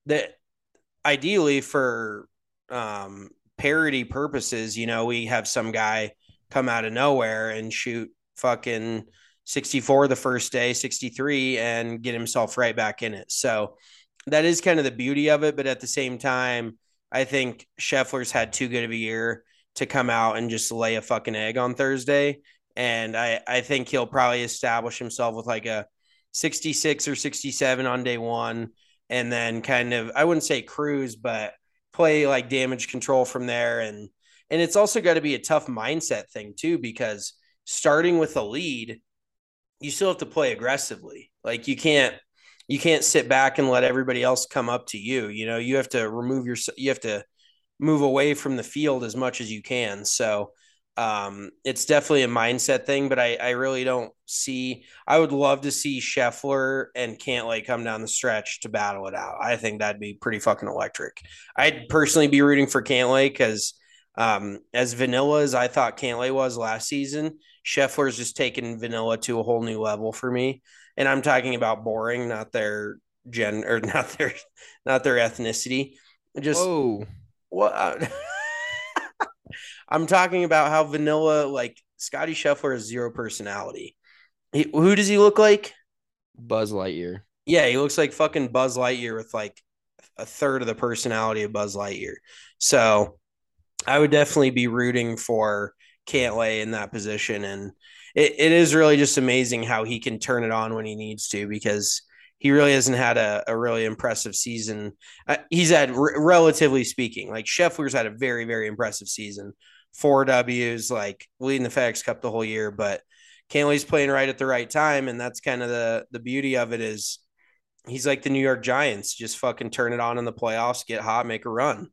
ideally for parity purposes, we have some guy come out of nowhere and shoot fucking 64 the first day, 63, and get himself right back in it. So that is kind of the beauty of it. But at the same time, I think Scheffler's had too good of a year to come out and just lay a fucking egg on Thursday. And I think he'll probably establish himself with like a 66 or 67 on day one. And then kind of, I wouldn't say cruise, but play like damage control from there. And it's also got to be a tough mindset thing too, because starting with a lead, you still have to play aggressively. Like you can't sit back and let everybody else come up to you. You have to you have to move away from the field as much as you can. So it's definitely a mindset thing, but I really don't see, I would love to see Scheffler and Cantlay come down the stretch to battle it out. I think that'd be pretty fucking electric. I'd personally be rooting for Cantlay because as vanilla as I thought Cantlay was last season, Scheffler's just taken vanilla to a whole new level for me. And I'm talking about boring, not their not their ethnicity. Just Well, I'm talking about how vanilla, like Scotty Scheffler has zero personality. Who does he look like? Buzz Lightyear. Yeah, he looks like fucking Buzz Lightyear with like a third of the personality of Buzz Lightyear. So I would definitely be rooting for Cantlay in that position. And it is really just amazing how he can turn it on when he needs to, because he really hasn't had a really impressive season. He's had, relatively speaking, like Scheffler's had a very, very impressive season. 4 Ws, like leading the FedEx Cup the whole year. But Cantley's playing right at the right time. And that's kind of the beauty of it is he's like the New York Giants, just fucking turn it on in the playoffs, get hot, make a run.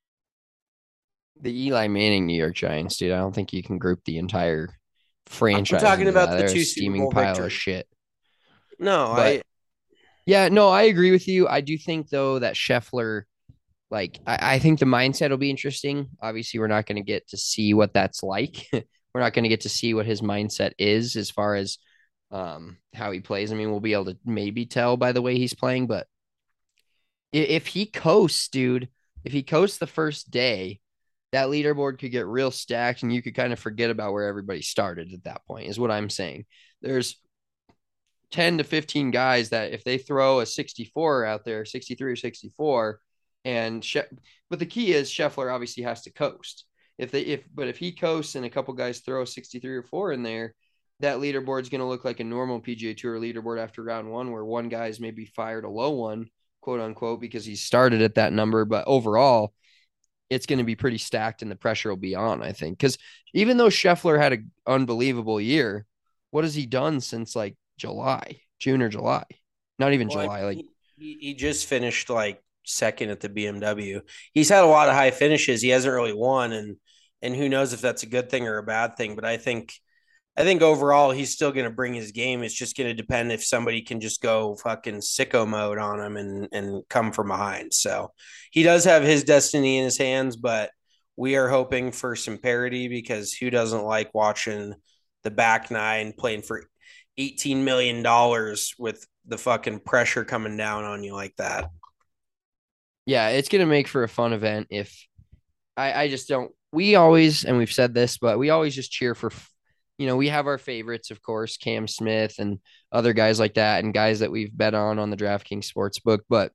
The Eli Manning New York Giants, dude. I don't think you can group the entire franchise. I'm talking into about that. the They're two a Super steaming Bowl pile victories. of shit. No, But yeah, no, I agree with you. I do think though that Scheffler, like, I think the mindset will be interesting. Obviously, we're not going to get to see what that's like. We're not going to get to see what his mindset is as far as how he plays. I mean, we'll be able to maybe tell by the way he's playing, but if he coasts, dude, if he coasts the first day, that leaderboard could get real stacked and you could kind of forget about where everybody started at that point, is what I'm saying. There's 10 to 15 guys that if they throw a 64 out there, 63 or 64, but the key is Scheffler obviously has to coast. But if he coasts and a couple guys throw 63 or 4 in there, that leaderboard is going to look like a normal PGA Tour leaderboard after round one, where one guy's maybe fired a low one, quote unquote, because he started at that number. But overall, it's going to be pretty stacked and the pressure will be on, I think. Because even though Scheffler had an unbelievable year, what has he done since like June or July? Not even July. Like he just finished like second at the BMW. He's had a lot of high finishes. He hasn't really won, and who knows if that's a good thing or a bad thing. But I think overall he's still going to bring his game. It's just going to depend if somebody can just go fucking sicko mode on him and come from behind. So he does have his destiny in his hands, but we are hoping for some parity, because who doesn't like watching the back nine playing for $18 million with the fucking pressure coming down on you like that? Yeah, it's going to make for a fun event. If I just don't, we always, and we've said this, but we always just cheer for, we have our favorites, of course, Cam Smith and other guys like that, and guys that we've bet on the DraftKings Sportsbook. But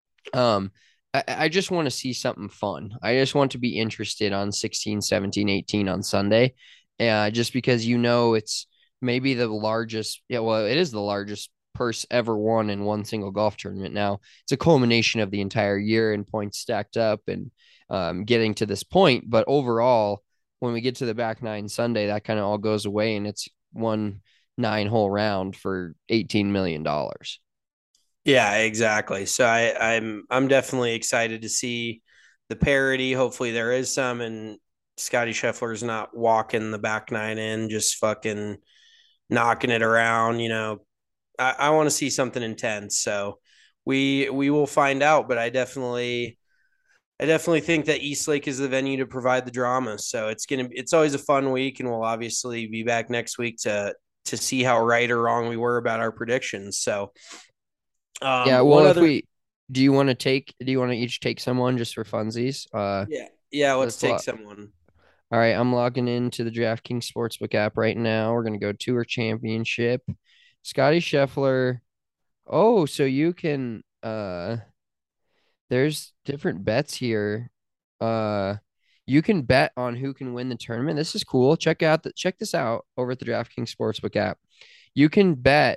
I just want to see something fun. I just want to be interested on 16, 17, 18 on Sunday. Just because, it's maybe the largest. Yeah, well, it is the largest purse ever won in one single golf tournament. Now, it's a culmination of the entire year and points stacked up and getting to this point. But overall, when we get to the back nine Sunday, that kind of all goes away, and it's 9-hole round for $18 million. Yeah, exactly. So I'm definitely excited to see the parity. Hopefully there is some, and Scotty Scheffler's not walking the back nine in, just fucking knocking it around. I want to see something intense. So we will find out. But I definitely think that East Lake is the venue to provide the drama. So it's always a fun week, and we'll obviously be back next week to see how right or wrong we were about our predictions. So yeah, well, do you want to each take someone just for funsies? Let's take someone. All right, I'm logging into the DraftKings Sportsbook app right now. We're going to go Tour Championship. Scotty Scheffler. Oh, so you can there's different bets here. You can bet on who can win the tournament. This is cool. Check this out over at the DraftKings Sportsbook app. You can bet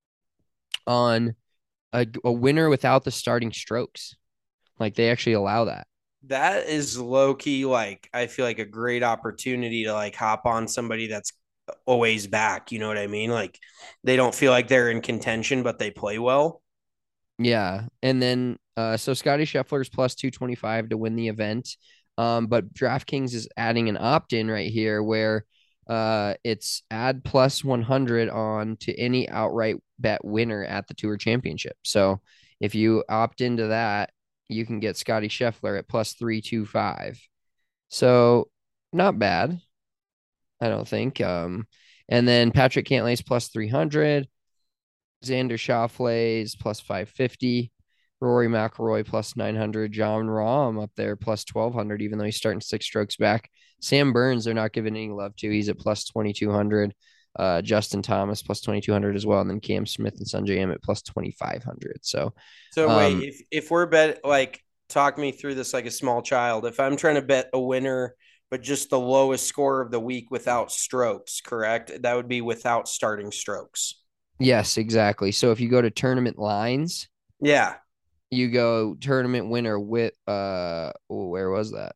on a winner without the starting strokes. Like, they actually allow that. That is low key, like, I feel like a great opportunity to like hop on somebody that's always back. You know what I mean? Like, they don't feel like they're in contention, but they play well. Yeah. And then so Scotty Scheffler is plus 225 to win the event. But DraftKings is adding an opt-in right here where it's add plus 100 on to any outright bet winner at the Tour Championship. So if you opt into that, you can get Scotty Scheffler at plus 325. So not bad, I don't think. And then Patrick Cantlay's plus 300. Xander Schauffele's plus 550. Rory McIlroy plus 900. John Rahm up there plus 1,200, even though he's starting 6 strokes back. Sam Burns, they're not giving any love to. He's at plus 2,200. Justin Thomas plus 2,200 as well. And then Cam Smith and Sungjae Im at plus 2,500. So wait, if we're talk me through this like a small child. If I'm trying to bet a winner, but just the lowest score of the week without strokes, correct? That would be without starting strokes. yes, exactly. So if you go to tournament lines, yeah, you go tournament winner with where was that?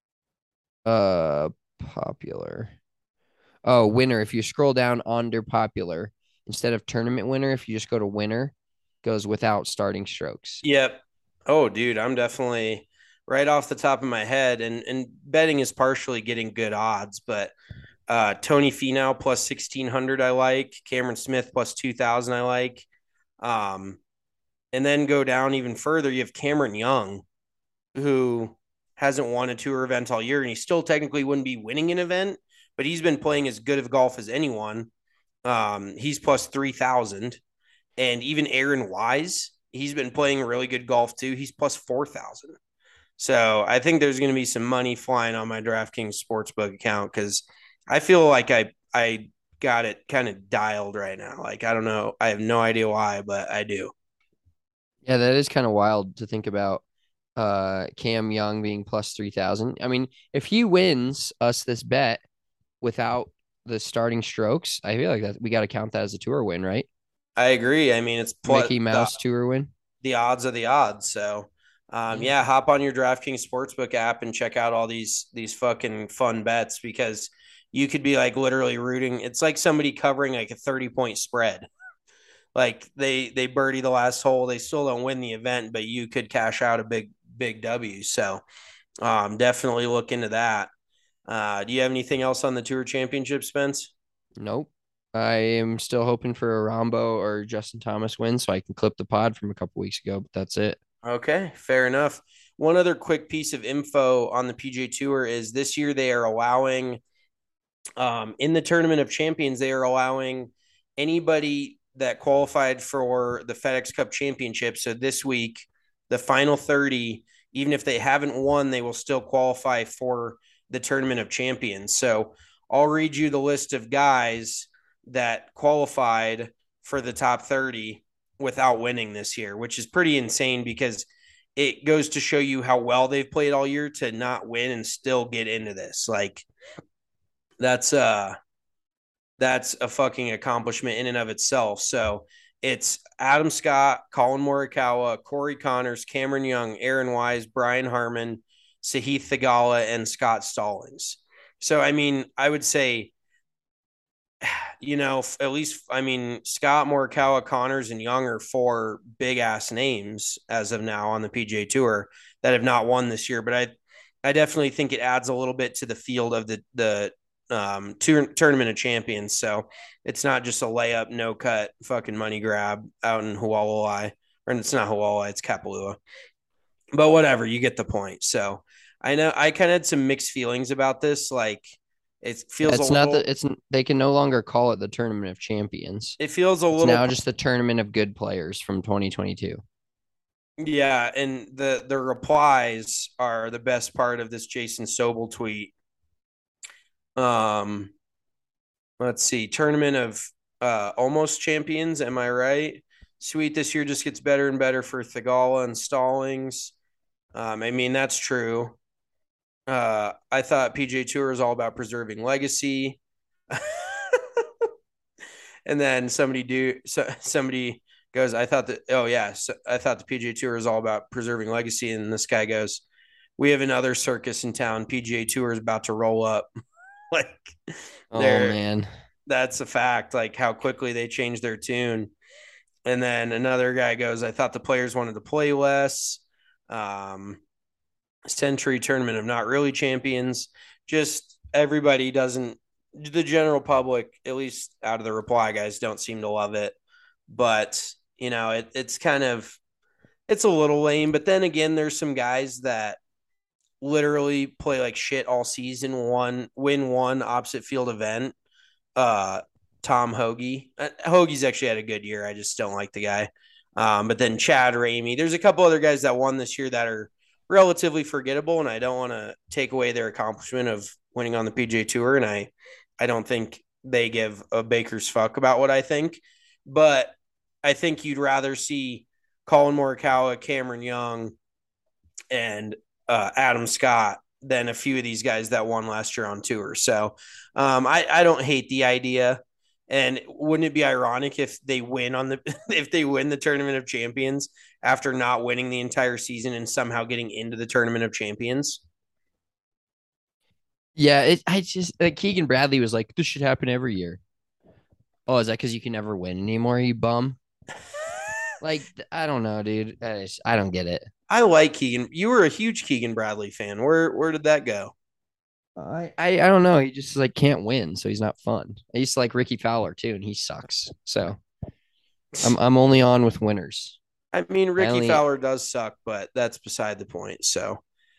Popular. Oh, winner. If you scroll down under popular, instead of tournament winner, if you just go to winner, goes without starting strokes. Yep. Oh, dude, I'm definitely right off the top of my head, and betting is partially getting good odds, but Tony Finau plus 1,600 I like, Cameron Smith plus 2,000 I like. And then go down even further, you have Cameron Young, who hasn't won a tour event all year, and he still technically wouldn't be winning an event, but he's been playing as good of golf as anyone. He's plus 3,000. And even Aaron Wise, he's been playing really good golf too. He's plus 4,000. So I think there's going to be some money flying on my DraftKings Sportsbook account because I feel like I got it kind of dialed right now. Like, I don't know. I have no idea why, but I do. Yeah, that is kind of wild to think about. Cam Young being plus 3,000. I mean, if he wins us this bet without the starting strokes, I feel like that we got to count that as a tour win, right? I agree. I mean, it's Mickey Mouse tour win. The odds are the odds. So, yeah, hop on your DraftKings Sportsbook app and check out all these fucking fun bets because you could be like literally rooting. It's like somebody covering like a 30-point spread. Like they birdie the last hole, they still don't win the event, but you could cash out a big W. So, definitely look into that. Do you have anything else on the Tour Championship, Spence? Nope. I am still hoping for a Rombo or Justin Thomas win so I can clip the pod from a couple weeks ago, but that's it. Okay, fair enough. One other quick piece of info on the PGA Tour is this year they are allowing, in the Tournament of Champions, they are allowing anybody that qualified for the FedEx Cup Championship. So this week, the final 30, even if they haven't won, they will still qualify for the Tournament of Champions. So I'll read you the list of guys that qualified for the top 30 without winning this year, which is pretty insane because it goes to show you how well they've played all year to not win and still get into this. Like that's a fucking accomplishment in and of itself. So it's Adam Scott, Colin Morikawa, Corey Connors, Cameron Young, Aaron Wise, Brian Harman, Sahith Theegala, and Scott Stallings. So, I mean, I would say, at least, I mean, Scott, Morikawa, Connors, and Young are 4 big-ass names as of now on the PGA Tour that have not won this year. But I definitely think it adds a little bit to the field of the Tournament of Champions. So it's not just a layup, no-cut fucking money grab out in Hualalai. Or it's not Hualalai, it's Kapalua. But whatever, you get the point. So I know I kind of had some mixed feelings about this. Like it feels they can no longer call it the Tournament of Champions. It feels a little it's now just the Tournament of Good Players from 2022. Yeah, and the replies are the best part of this Jason Sobel tweet. Let's see, Tournament of Almost Champions, am I right? Sweet, this year just gets better and better for Theegala and Stallings. I mean, that's true. I thought PGA Tour is all about preserving legacy. And then somebody goes, I thought the PGA Tour is all about preserving legacy. And this guy goes, we have another circus in town. PGA Tour is about to roll up. Like, oh man, that's a fact. Like how quickly they changed their tune. And then another guy goes, I thought the players wanted to play less. Century Tournament of Not Really Champions. Just everybody doesn't, the general public, at least out of the reply guys, don't seem to love it. But, it's kind of, it's a little lame. But then again, there's some guys that literally play like shit all season, win one opposite field event. Tom Hoagie. Hoagie's actually had a good year. I just don't like the guy. But then Chad Ramey, there's a couple other guys that won this year that are relatively forgettable, and I don't want to take away their accomplishment of winning on the PGA Tour, and I don't think they give a baker's fuck about what I think, but I think you'd rather see Colin Morikawa, Cameron Young, and Adam Scott than a few of these guys that won last year on tour. So I don't hate the idea. And wouldn't it be ironic if they win on the if they win the Tournament of Champions after not winning the entire season and somehow getting into the Tournament of Champions? Yeah, I just like Keegan Bradley was like, this should happen every year. Oh, is that because you can never win anymore, you bum? Like, I don't know, dude. I don't get it. I like Keegan. You were a huge Keegan Bradley fan. Where did that go? I don't know. He just like can't win, so he's not fun. I used to like Ricky Fowler too, and he sucks. So I'm only on with winners. I mean, Ricky Fowler does suck, but that's beside the point. So,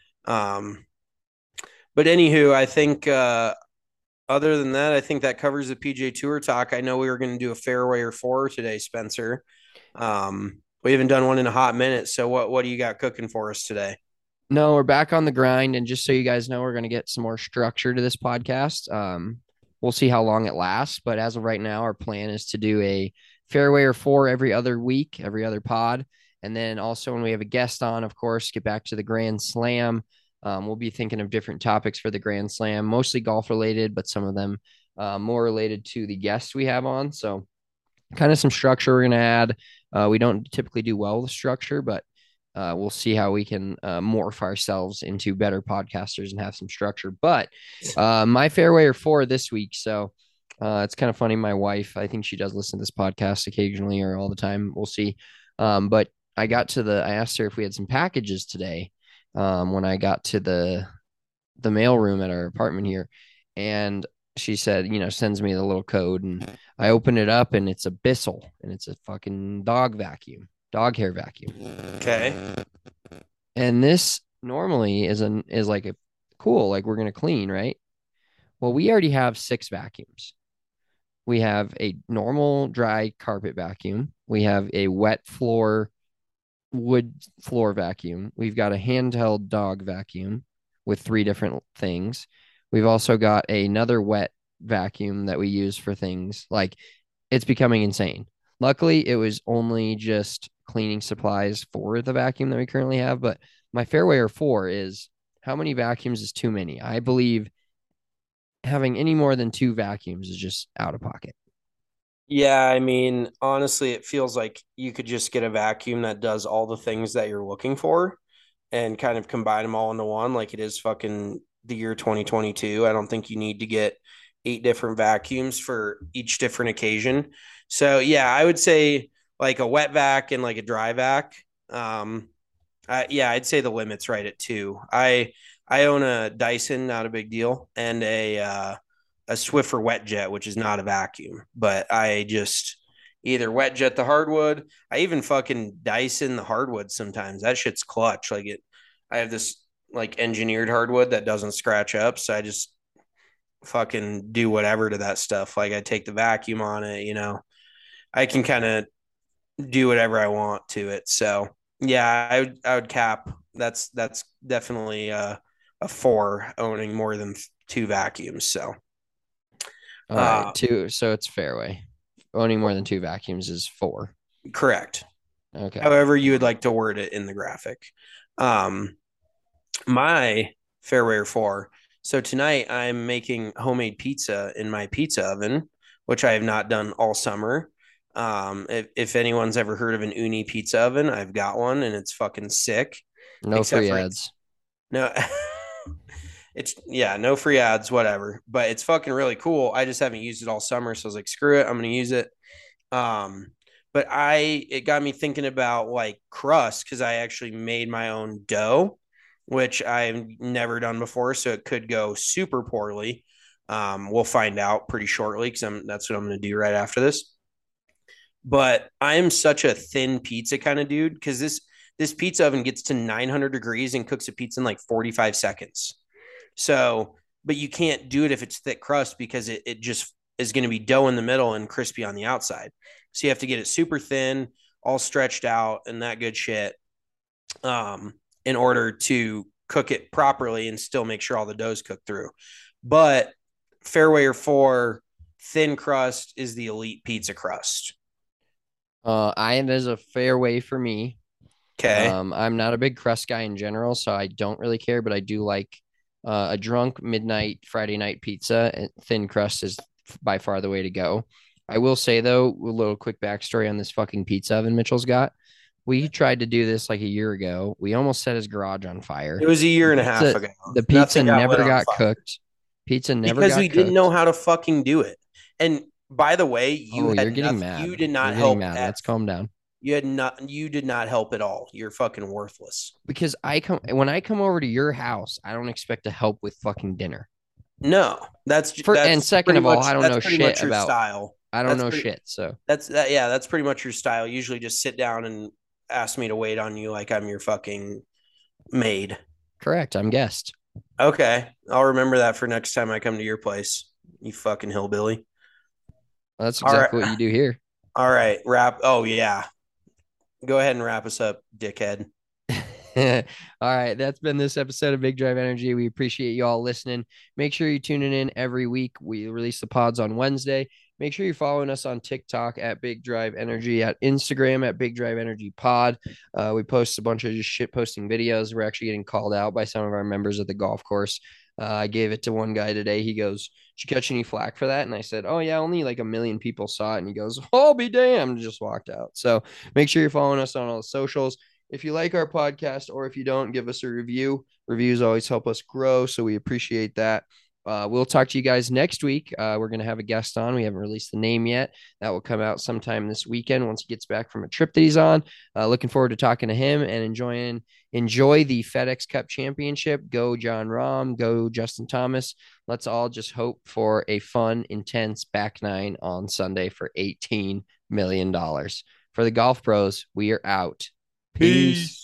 but anywho, I think other than that, I think that covers the PGA Tour talk. I know we were going to do a fairway or four today, Spencer. We haven't done one in a hot minute. So what do you got cooking for us today? No, we're back on the grind. And just so you guys know, we're going to get some more structure to this podcast. We'll see how long it lasts. But as of right now, our plan is to do a fairway or four every other week, every other pod. And then also when we have a guest on, of course, get back to the Grand Slam. We'll be thinking of different topics for the Grand Slam, mostly golf related, but some of them more related to the guests we have on. So kind of some structure we're going to add. We don't typically do well with structure, but we'll see how we can morph ourselves into better podcasters and have some structure. But my fairway or four this week. So it's kind of funny. My wife, I think she does listen to this podcast occasionally or all the time. We'll see. But I asked her if we had some packages today when I got to the mail room at our apartment here. And she said, sends me the little code, and I open it up and it's a Bissell, and it's a fucking dog hair vacuum. Okay. And this normally is like a cool, like we're going to clean, right? Well, we already have 6 vacuums. We have a normal dry carpet vacuum. We have a wet wood floor vacuum. We've got a handheld dog vacuum with 3 different things. We've also got another wet vacuum that we use for things like it's becoming insane. Luckily, it was only just cleaning supplies for the vacuum that we currently have. But my fairway or four is how many vacuums is too many? I believe having any more than 2 vacuums is just out of pocket. Yeah, I mean, honestly, it feels like you could just get a vacuum that does all the things that you're looking for and kind of combine them all into one, like it is fucking the year 2022. I don't think you need to get 8 different vacuums for each different occasion. So yeah, I would say like a wet vac and like a dry vac. I'd say the limit's right at 2. I own a Dyson, not a big deal, and a Swiffer wet jet, which is not a vacuum, but I just either wet jet the hardwood. I even fucking Dyson the hardwood sometimes. That shit's clutch. I have this like engineered hardwood that doesn't scratch up, so I just fucking do whatever to that stuff. Like I take the vacuum on it, I can kind of do whatever I want to it. So yeah, I would cap. That's definitely a 4 owning more than 2 vacuums. So. All right, 2. So it's fairway. Owning more than 2 vacuums is 4. Correct. Okay. However you would like to word it in the graphic. My fairway or 4. So tonight I'm making homemade pizza in my pizza oven, which I have not done all summer. If anyone's ever heard of an Uni pizza oven, I've got one and it's fucking sick. No free ads. No. No free ads, whatever. But it's fucking really cool. I just haven't used it all summer, so I was like, screw it, I'm gonna use it. But it got me thinking about like crust because I actually made my own dough, which I've never done before, so it could go super poorly. We'll find out pretty shortly because that's what I'm gonna do right after this. But I am such a thin pizza kind of dude because this pizza oven gets to 900 degrees and cooks a pizza in like 45 seconds. So, but you can't do it if it's thick crust because it just is going to be dough in the middle and crispy on the outside. So you have to get it super thin. all stretched out and that good shit, in order to cook it properly and still make sure all the dough's cooked through. But Fairway 4 thin crust is the elite pizza crust. Iron is a Fairway for me. Okay. I'm not a big crust guy in general, so I don't really care, but I do like a drunk midnight Friday night pizza. And thin crust is by far the way to go. I will say though, a little quick backstory on this fucking pizza oven Mitchell's got. We tried to do this like a year ago. We almost set his garage on fire. It was a year and a half ago. The pizza never got cooked. Pizza never got cooked. Because we didn't know how to fucking do it. And by the way, you're getting mad. You did not help. Let's calm down. You did not help at all. You're fucking worthless. Because when I come over to your house, I don't expect to help with fucking dinner. No, that's and second of all, I don't know shit about style. I don't know shit. So that's pretty much your style. Usually just sit down and ask me to wait on you like I'm your fucking maid. Correct. I'm guest. Okay. I'll remember that for next time I come to your place. You fucking hillbilly. That's exactly what you do here. All right. Oh, yeah. Go ahead and wrap us up, dickhead. All right. That's been this episode of Big Drive Energy. We appreciate you all listening. Make sure you're tuning in every week. We release the pods on Wednesday. Make sure you're following us on TikTok at Big Drive Energy, at Instagram at Big Drive Energy Pod. We post a bunch of just shit posting videos. We're actually getting called out by some of our members at the golf course. I gave it to one guy today. He goes, "Did you catch any flack for that?" And I said, "Oh yeah, only like 1 million people saw it." And he goes, "I'll be damned," just walked out. So make sure you're following us on all the socials. If you like our podcast, or if you don't, give us a review. Reviews always help us grow, so we appreciate that. We'll talk to you guys next week. We're going to have a guest on. We haven't released the name yet. That will come out sometime this weekend once he gets back from a trip that he's on. Looking forward to talking to him and enjoy the FedEx Cup Championship. Go John Rahm. Go Justin Thomas. Let's all just hope for a fun, intense back nine on Sunday for $18 million. For the Golf Bros, we are out. Peace.